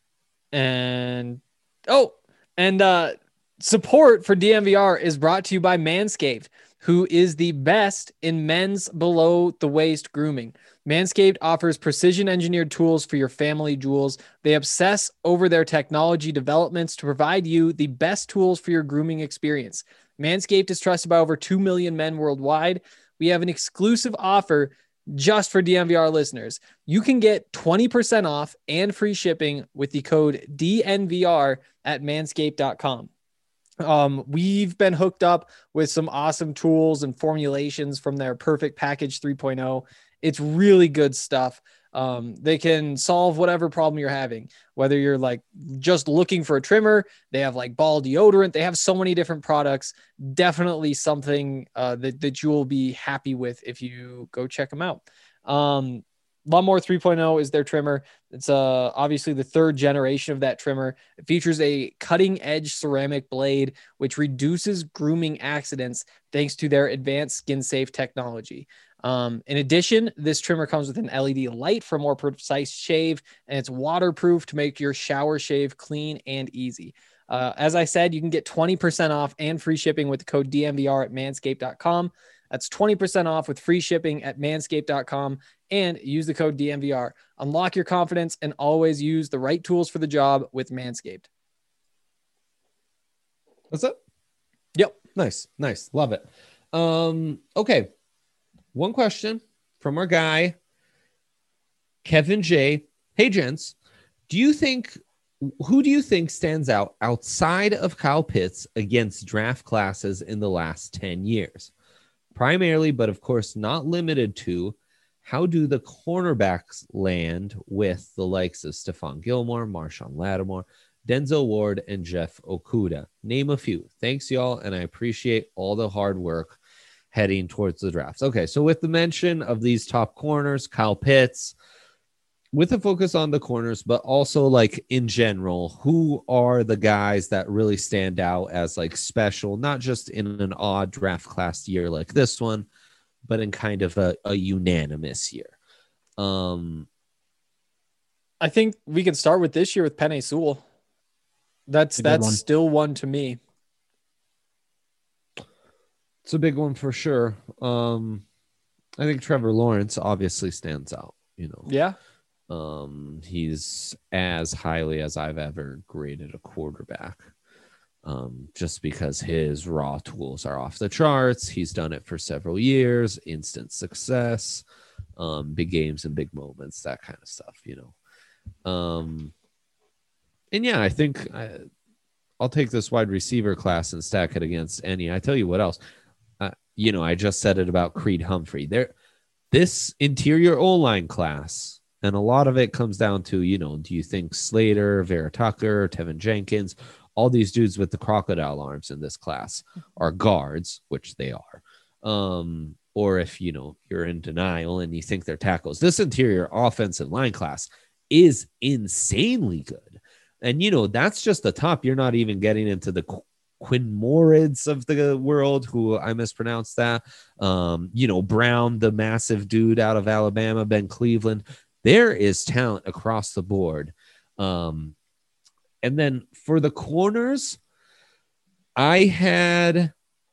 And oh, and uh support for D M V R is brought to you by Manscaped, who is the best in men's below the waist grooming. Manscaped offers precision engineered tools for your family jewels. They obsess over their technology developments to provide you the best tools for your grooming experience. Manscaped is trusted by over two million men worldwide. We have an exclusive offer just for D M V R listeners. You can get twenty percent off and free shipping with the code D N V R at manscaped dot com. Um, we've been hooked up with some awesome tools and formulations from their Perfect Package three point oh. It's really good stuff. Um, they can solve whatever problem you're having, whether you're like just looking for a trimmer. They have like ball deodorant. They have so many different products. Definitely something uh, that, that you will be happy with if you go check them out. Um, Lawnmower three point oh is their trimmer. It's uh, obviously the third generation of that trimmer. It features a cutting edge ceramic blade, which reduces grooming accidents thanks to their advanced skin safe technology. Um, in addition, this trimmer comes with an L E D light for more precise shave, and it's waterproof to make your shower shave clean and easy. Uh, as I said, you can get twenty percent off and free shipping with the code D M V R at manscaped dot com. That's twenty percent off with free shipping at manscaped dot com, and use the code D M V R. Unlock your confidence and always use the right tools for the job with Manscaped.
What's up?
Yep.
Nice. Nice. Love it. Um, okay. One question from our guy, Kevin J. Hey, gents, do you think, who do you think stands out outside of Kyle Pitts against draft classes in the last ten years? Primarily, but of course not limited to, how do the cornerbacks land with the likes of Stephon Gilmore, Marshawn Lattimore, Denzel Ward, and Jeff Okudah? Name a few. Thanks, y'all, and I appreciate all the hard work heading towards the drafts. Okay, so with the mention of these top corners, Kyle Pitts, with a focus on the corners, but also like in general, who are the guys that really stand out as like special, not just in an odd draft class year like this one, but in kind of a, a unanimous year? Um,
I think we can start with this year with Penei Sewell. That's
A good
that's
one.
still one to me.
it's a big one for sure. Um, I think Trevor Lawrence obviously stands out, you know.
Yeah.
Um, he's as highly as I've ever graded a quarterback. Um, just because his raw tools are off the charts. He's done it for several years, instant success, um, big games and big moments, that kind of stuff, you know. Um, and yeah, I think I, I'll take this wide receiver class and stack it against any. I tell you what else, uh, you know, I just said it about Creed Humphrey. There, this interior O-line class, and a lot of it comes down to, you know, do you think Slater, Vera Tucker, Tevin Jenkins, all these dudes with the crocodile arms in this class are guards, which they are. Um, or if, you know, you're in denial and you think they're tackles, this interior offensive line class is insanely good. And, you know, that's just the top. You're not even getting into the Qu- Quinn Morids of the world, who I mispronounced that. Um, you know, Brown, the massive dude out of Alabama, Ben Cleveland. There is talent across the board. Um, and then for the corners, I had,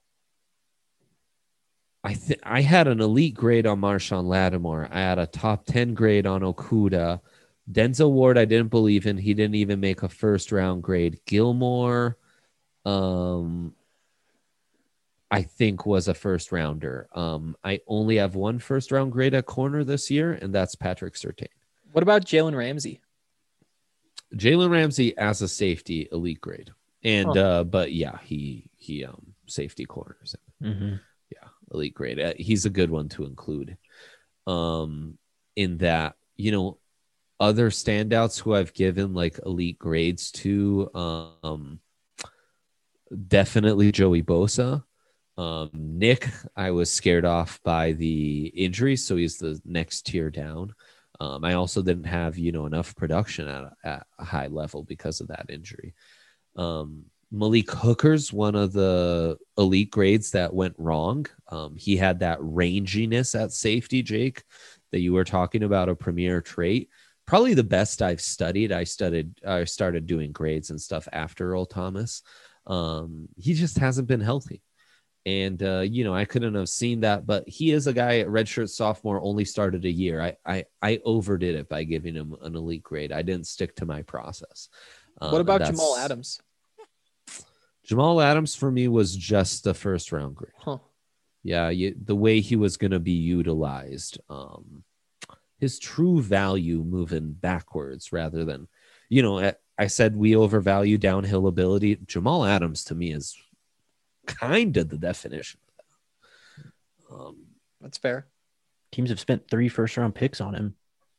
I think I had an elite grade on Marshawn Lattimore. I had a top ten grade on Okudah. Denzel Ward, I didn't believe in. He didn't even make a first round grade. Gilmore, um, I think was a first rounder. Um, I only have one first round grade at corner this year, and that's Patrick Surtain.
What about Jalen Ramsey?
Jalen Ramsey as a safety, elite grade. And,
Huh.
uh, but yeah, he, he, um, safety corners.
Mm-hmm.
Yeah. elite grade. Uh, He's a good one to include. Um, in that, you know, other standouts who I've given like elite grades to, um, definitely Joey Bosa. Um, Nick, I was scared off by the injury, so he's the next tier down. Um, I also didn't have, you know, enough production at, at a high level because of that injury. Um, Malik Hooker's one of the elite grades that went wrong. Um, he had that ranginess at safety, Jake, that you were talking about, a premier trait. Probably the best I've studied. I studied, I started doing grades and stuff after Earl Thomas. Um, he just hasn't been healthy. And, uh, you know, I couldn't have seen that, but he is a guy at redshirt sophomore, only started a year. I, I, I overdid it by giving him an elite grade. I didn't stick to my process. Um,
What about
and that's-
Jamal Adams?
Jamal Adams for me was just a first round grade.
Huh.
Yeah. You, the way he was going to be utilized, um, his true value moving backwards rather than, you know, I, I said we overvalue downhill ability. Jamal Adams to me is kind of the definition of that. Um,
That's fair.
Teams have spent three first round picks on him.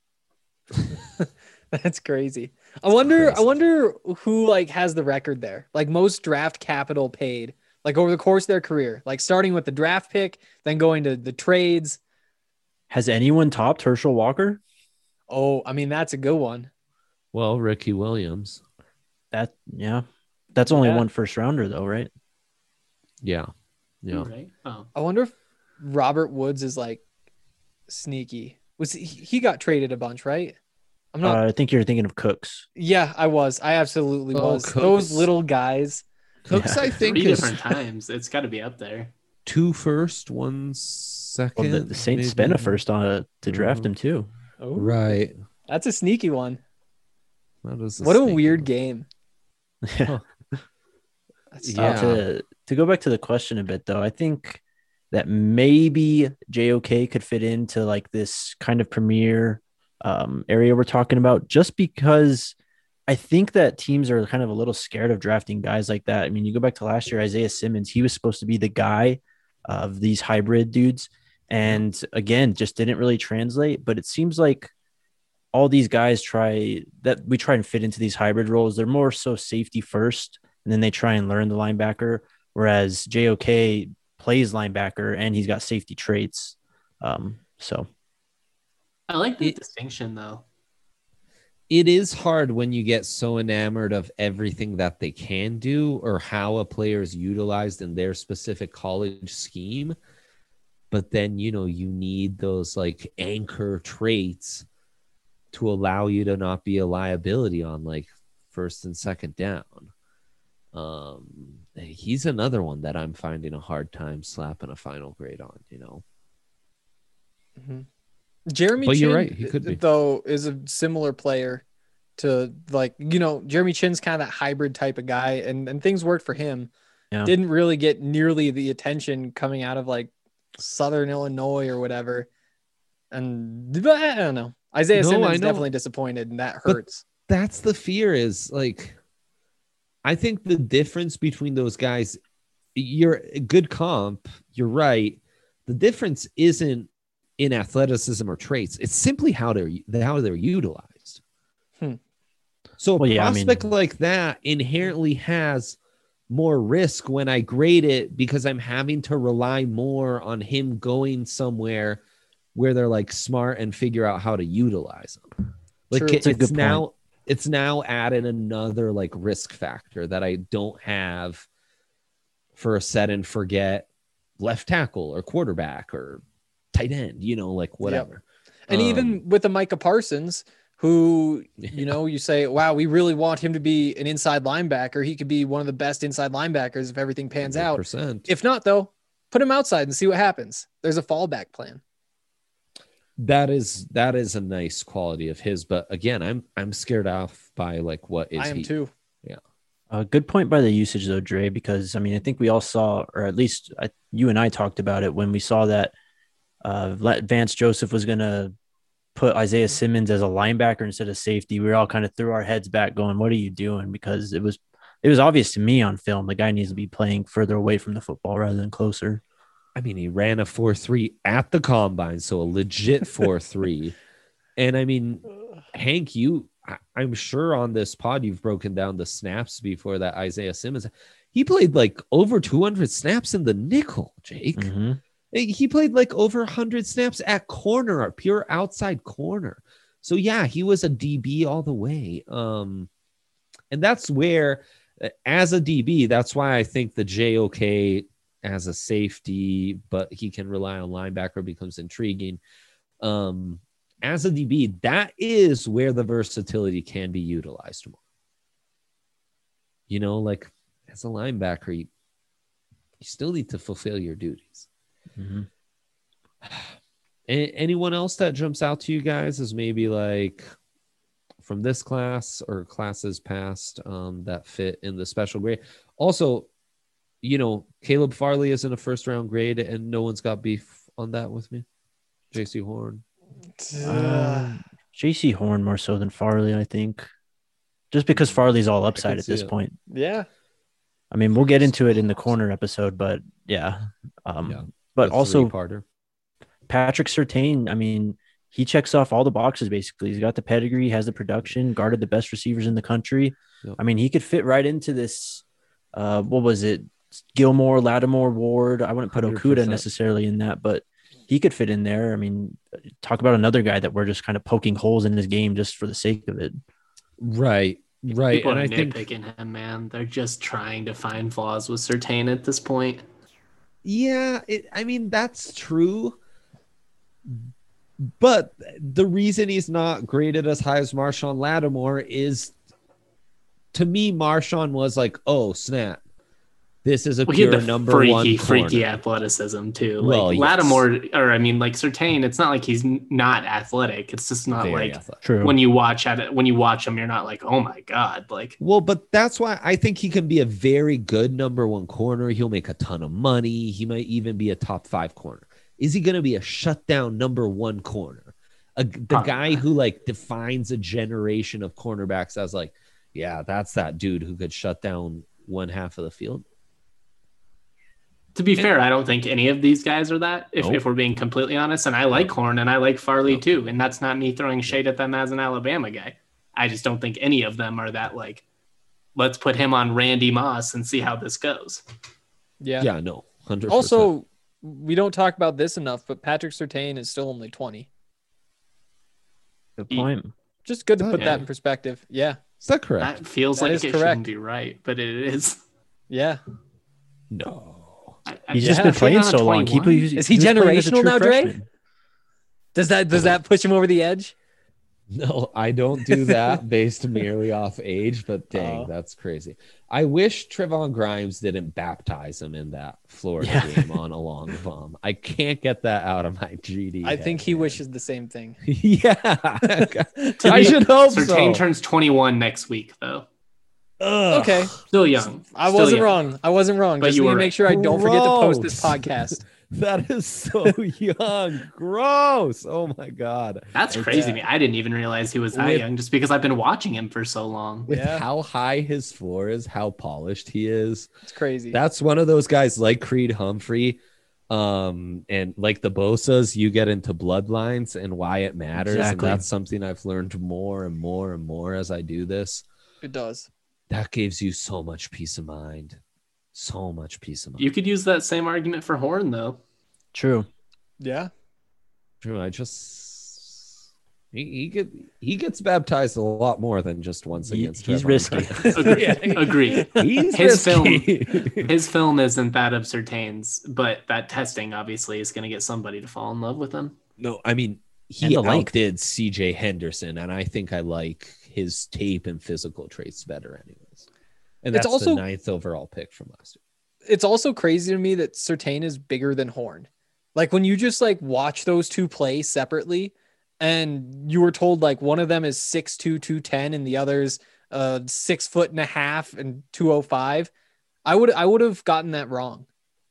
That's crazy. I wonder.
crazy.
I wonder who like has the record there. Like most draft capital paid, like over the course of their career, like starting with the draft pick, then going to the trades.
Has anyone topped Herschel Walker?
Oh, I mean that's a good one.
well, Ricky Williams.
That yeah, that's only
Yeah.
one first rounder though, right?
Yeah. Yeah.
Right? Oh.
I wonder if Robert Woods is like sneaky. Was he, he got traded a bunch, right? I'm not.
Uh, I think you're thinking of Cooks.
yeah, I was. I absolutely
Oh,
was.
Cooks.
Those little guys.
Cooks,
Yeah.
I think,
Three
is
different times. It's got to be up there.
two first, one second.
Well, the, the Saints
maybe.
spent a first on uh, to draft
Mhm.
him too.
Oh,
Right.
that's a sneaky one.
That is
What a
sneaky
weird
one.
game.
Yeah.
That's
Yeah.
tough.
Uh, to to go back to the question a bit though, I think that maybe J O K could fit into like this kind of premier um, area we're talking about, just because I think that teams are kind of a little scared of drafting guys like that. I mean, you go back to last year, Isaiah Simmons, he was supposed to be the guy of these hybrid dudes, and again, just didn't really translate. But it seems like all these guys try that we try and fit into these hybrid roles. They're more so safety first, and then they try and learn the linebacker. Whereas J O K plays linebacker and he's got safety traits. Um, so
I like the
It-
distinction though.
It is hard when you get so enamored of everything that they can do or how a player is utilized in their specific college scheme. But then, you know, you need those like anchor traits to allow you to not be a liability on like first and second down. Um, he's another one that I'm finding a hard time slapping a final grade on, you know.
Mhm. Jeremy
But
Chin,
you're right, he could be.
though, is a similar player to like, you know, Jeremy Chin's kind of that hybrid type of guy, and, and things worked for him.
Yeah.
Didn't really get nearly the attention coming out of like Southern Illinois or whatever. And but I don't know. Isaiah
No, I
Simmons
know.
definitely disappointed, and that
But-
hurts.
That's the fear is like, I think the difference between those guys, you're a good comp, you're right. The difference isn't in athleticism or traits. It's simply how they're how they're utilized.
Hmm.
So a
Well, yeah, I mean-
prospect like that inherently has more risk when I grade it because I'm having to rely more on him going somewhere where they're like smart and figure out how to utilize them. Like
True.
it-
That's a
it's
good point.
now it's now added another like risk factor that I don't have for a set and forget left tackle or quarterback or tight end, you know, like whatever.
And
Um,
even with the Micah Parsons, who, you know, you say, wow, we really want him to be an inside linebacker. He could be one of the best inside linebackers if everything pans out.
one hundred percent.
If not, though, put him outside and see what happens. There's a fallback plan.
That is that is a nice quality of his, but again, I'm I'm scared off by like what is
I am
he?
too.
a good point by the usage though, Dre, because I mean, I think we all saw, or at least I, you and I talked about it when we saw that uh, Vance Joseph was going to put Isaiah Simmons as a linebacker instead of safety. We all kind of threw our heads back going, what are you doing? Because it was, it was obvious to me on film, the guy needs to be playing further away from the football rather than closer.
I mean, he ran a four three at the combine, so a legit four three. And I mean, Hank, you, I, I'm sure on this pod you've broken down the snaps before that Isaiah Simmons. He played like over two hundred snaps in the nickel, Jake.
Mm-hmm.
He played like over one hundred snaps at corner, pure outside corner. So yeah, he was a D B all the way. Um, and that's where, as a D B, that's why I think the J O K as a safety, but he can rely on linebacker, becomes intriguing. Um, as a D B, that is where the versatility can be utilized more. You know, like as a linebacker, you, you still need to fulfill your duties.
Mm-hmm.
A- anyone else that jumps out to you guys as maybe like from this class or classes past um, that fit in the special grade? Also, you know, Caleb Farley is in a first round grade and no one's got beef on that with me. J C Horn.
Um, J C Horn more so than Farley, I think. Just because Farley's all upside at
see
this
it.
point.
Yeah.
I mean, we'll get into it in the corner episode, but yeah. Um,
Yeah.
But
The
also
three-parter.
Patrick Surtain, I mean, he checks off all the boxes basically. He's got the pedigree, has the production, guarded the best receivers in the country.
Yep.
I mean, he could fit right into this. Uh, what was it? Gilmore, Lattimore, Ward. I wouldn't put
one hundred
Okuda
percent.
necessarily in that, but he could fit in there. I mean, talk about another guy that we're just kind of poking holes in his game just for the sake of it.
Right. Right.
People
and
are
I think,
nitpicking him, man. They're just trying to find flaws with Surtain at this point.
yeah, it, I mean, that's true. But the reason he's not graded as high as Marshawn Lattimore is, to me, Marshawn was like, oh, snap. This is a
Well, he had
pure
the
number
freaky,
one
freaky
corner.
athleticism too. Like
Well, yes.
Lattimore, or I mean, like Surtain. It's not like he's n- not athletic. It's just not
Very
like
athletic.
True.
when you watch at it. When you watch him, you're not like, oh my god, like
Well, but that's why I think he can be a very good number one corner. He'll make a ton of money. He might even be a top five corner. Is he going to be a shutdown number one corner? A, the
Probably
guy
not.
who like defines a generation of cornerbacks as like, yeah, that's that dude who could shut down one half of the field.
to be fair, I don't think any of these guys are that. If,
Nope.
if we're being completely honest, and I like Horn and I like Farley
Nope.
too, and that's not me throwing shade at them as an Alabama guy. I just don't think any of them are that like, let's put him on Randy Moss and see how this goes.
Yeah.
Yeah, no, one hundred percent.
Also, we don't talk about this enough, but Patrick Surtain is still only twenty.
Good point.
Just good to
Oh,
put
yeah.
that in perspective. Yeah.
is that correct?
That feels
That
like
is
it
correct.
shouldn't be right, but it is.
Yeah.
No.
I, I
He's
Yeah.
just been
put
playing
on
so long. He,
twenty-one.
he,
Is he
was playing as a
generational
true
now, Dre?
freshman.
Does that does that push him over the edge?
No, I don't do that based merely off age, but dang,
Oh.
that's crazy. I wish Trevon Grimes didn't baptize him in that Florida
Yeah.
game on a long bomb. I can't get that out of my G D.
I think
head,
he
man.
wishes the same thing.
Yeah.
To
I
be-
should hope
Surtain
so.
turns twenty-one next week, though.
Ugh.
Okay.
Still young.
I
Still
wasn't
young.
wrong. I wasn't wrong.
But
Just
you
need to
were
make sure I don't forget to post this
Gross.
podcast.
That is so young. Gross. Oh my God.
That's
Like
crazy
that.
to me. I didn't even realize he was that
With-
young just because I've been watching him for so long.
With
Yeah.
how high his floor is, how polished he is.
It's crazy.
That's one of those guys like Creed Humphrey. Um, and like the Bosas, you get into bloodlines and why it matters.
Exactly.
And that's something I've learned more and more and more as I do this.
It does.
That gives you so much peace of mind. So much peace of mind.
You could use that same argument for Horn, though.
True.
Yeah.
True. I just he, he get he gets baptized a lot more than just once
He-
against.
he's
Trevon
risky.
Grimes.
Agree.
Yeah.
Agree.
He's
His
risky.
His film isn't that of Surtain's, but that testing obviously is going to get somebody to fall in love with him.
No, I mean
And
he
the length.
outdid C J Henderson, and I think I like his tape and physical traits better, anyways. And
It's
that's
also-
the ninth overall pick from last year.
It's also crazy to me that Surtain is bigger than Horn. Like when you just like watch those two play separately and you were told like one of them is six two, two ten and the other's uh six foot and a half and two oh five. I would I would have gotten that wrong.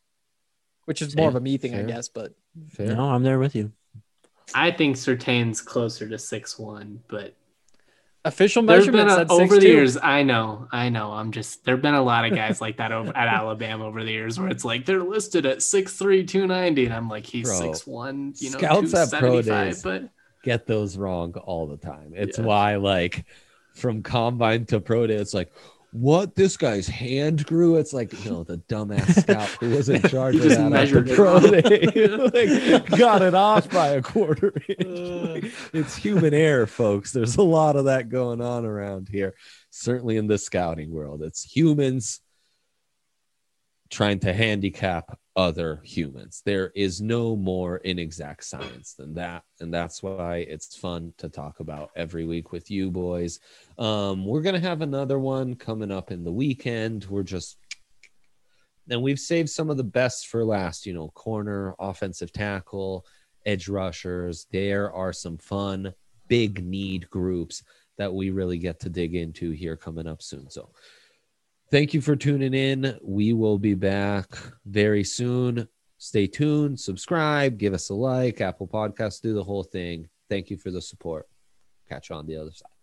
Which is more of a me thing, I
Fair.
guess, but
Fair.
No, I'm there with you.
I think Surtain's closer to six one, but
Official
There's been
measurement
a,
said
over
six
the
two.
years. I know, I know. I'm just there've been a lot of guys like that over at Alabama over the years, where it's like they're listed at six three, two ninety, and I'm like, he's
Bro,
six one, you know,
scouts
two
at pro
seventy-five.
days
But
get those wrong all the time. It's
Yeah.
why, like, from combine to pro day, it's like, what? This guy's hand grew? It's like, you know, the dumbass scout who was in charge
He
of
just
that
measured
after
it
pro
wrong.
day. Like, got it off by a quarter inch. Like, it's human error, folks. There's a lot of that going on around here. Certainly in the scouting world, it's humans trying to handicap other humans. There is no more inexact science than that, and that's why it's fun to talk about every week with you boys. Um, we're gonna have another one coming up in the weekend. We're just and we've saved some of the best for last. You know, corner, offensive tackle, edge rushers. There are some fun, big need groups that we really get to dig into here coming up soon. So thank you for tuning in. We will be back very soon. Stay tuned, subscribe, give us a like, Apple Podcasts, do the whole thing. Thank you for the support. Catch you on the other side.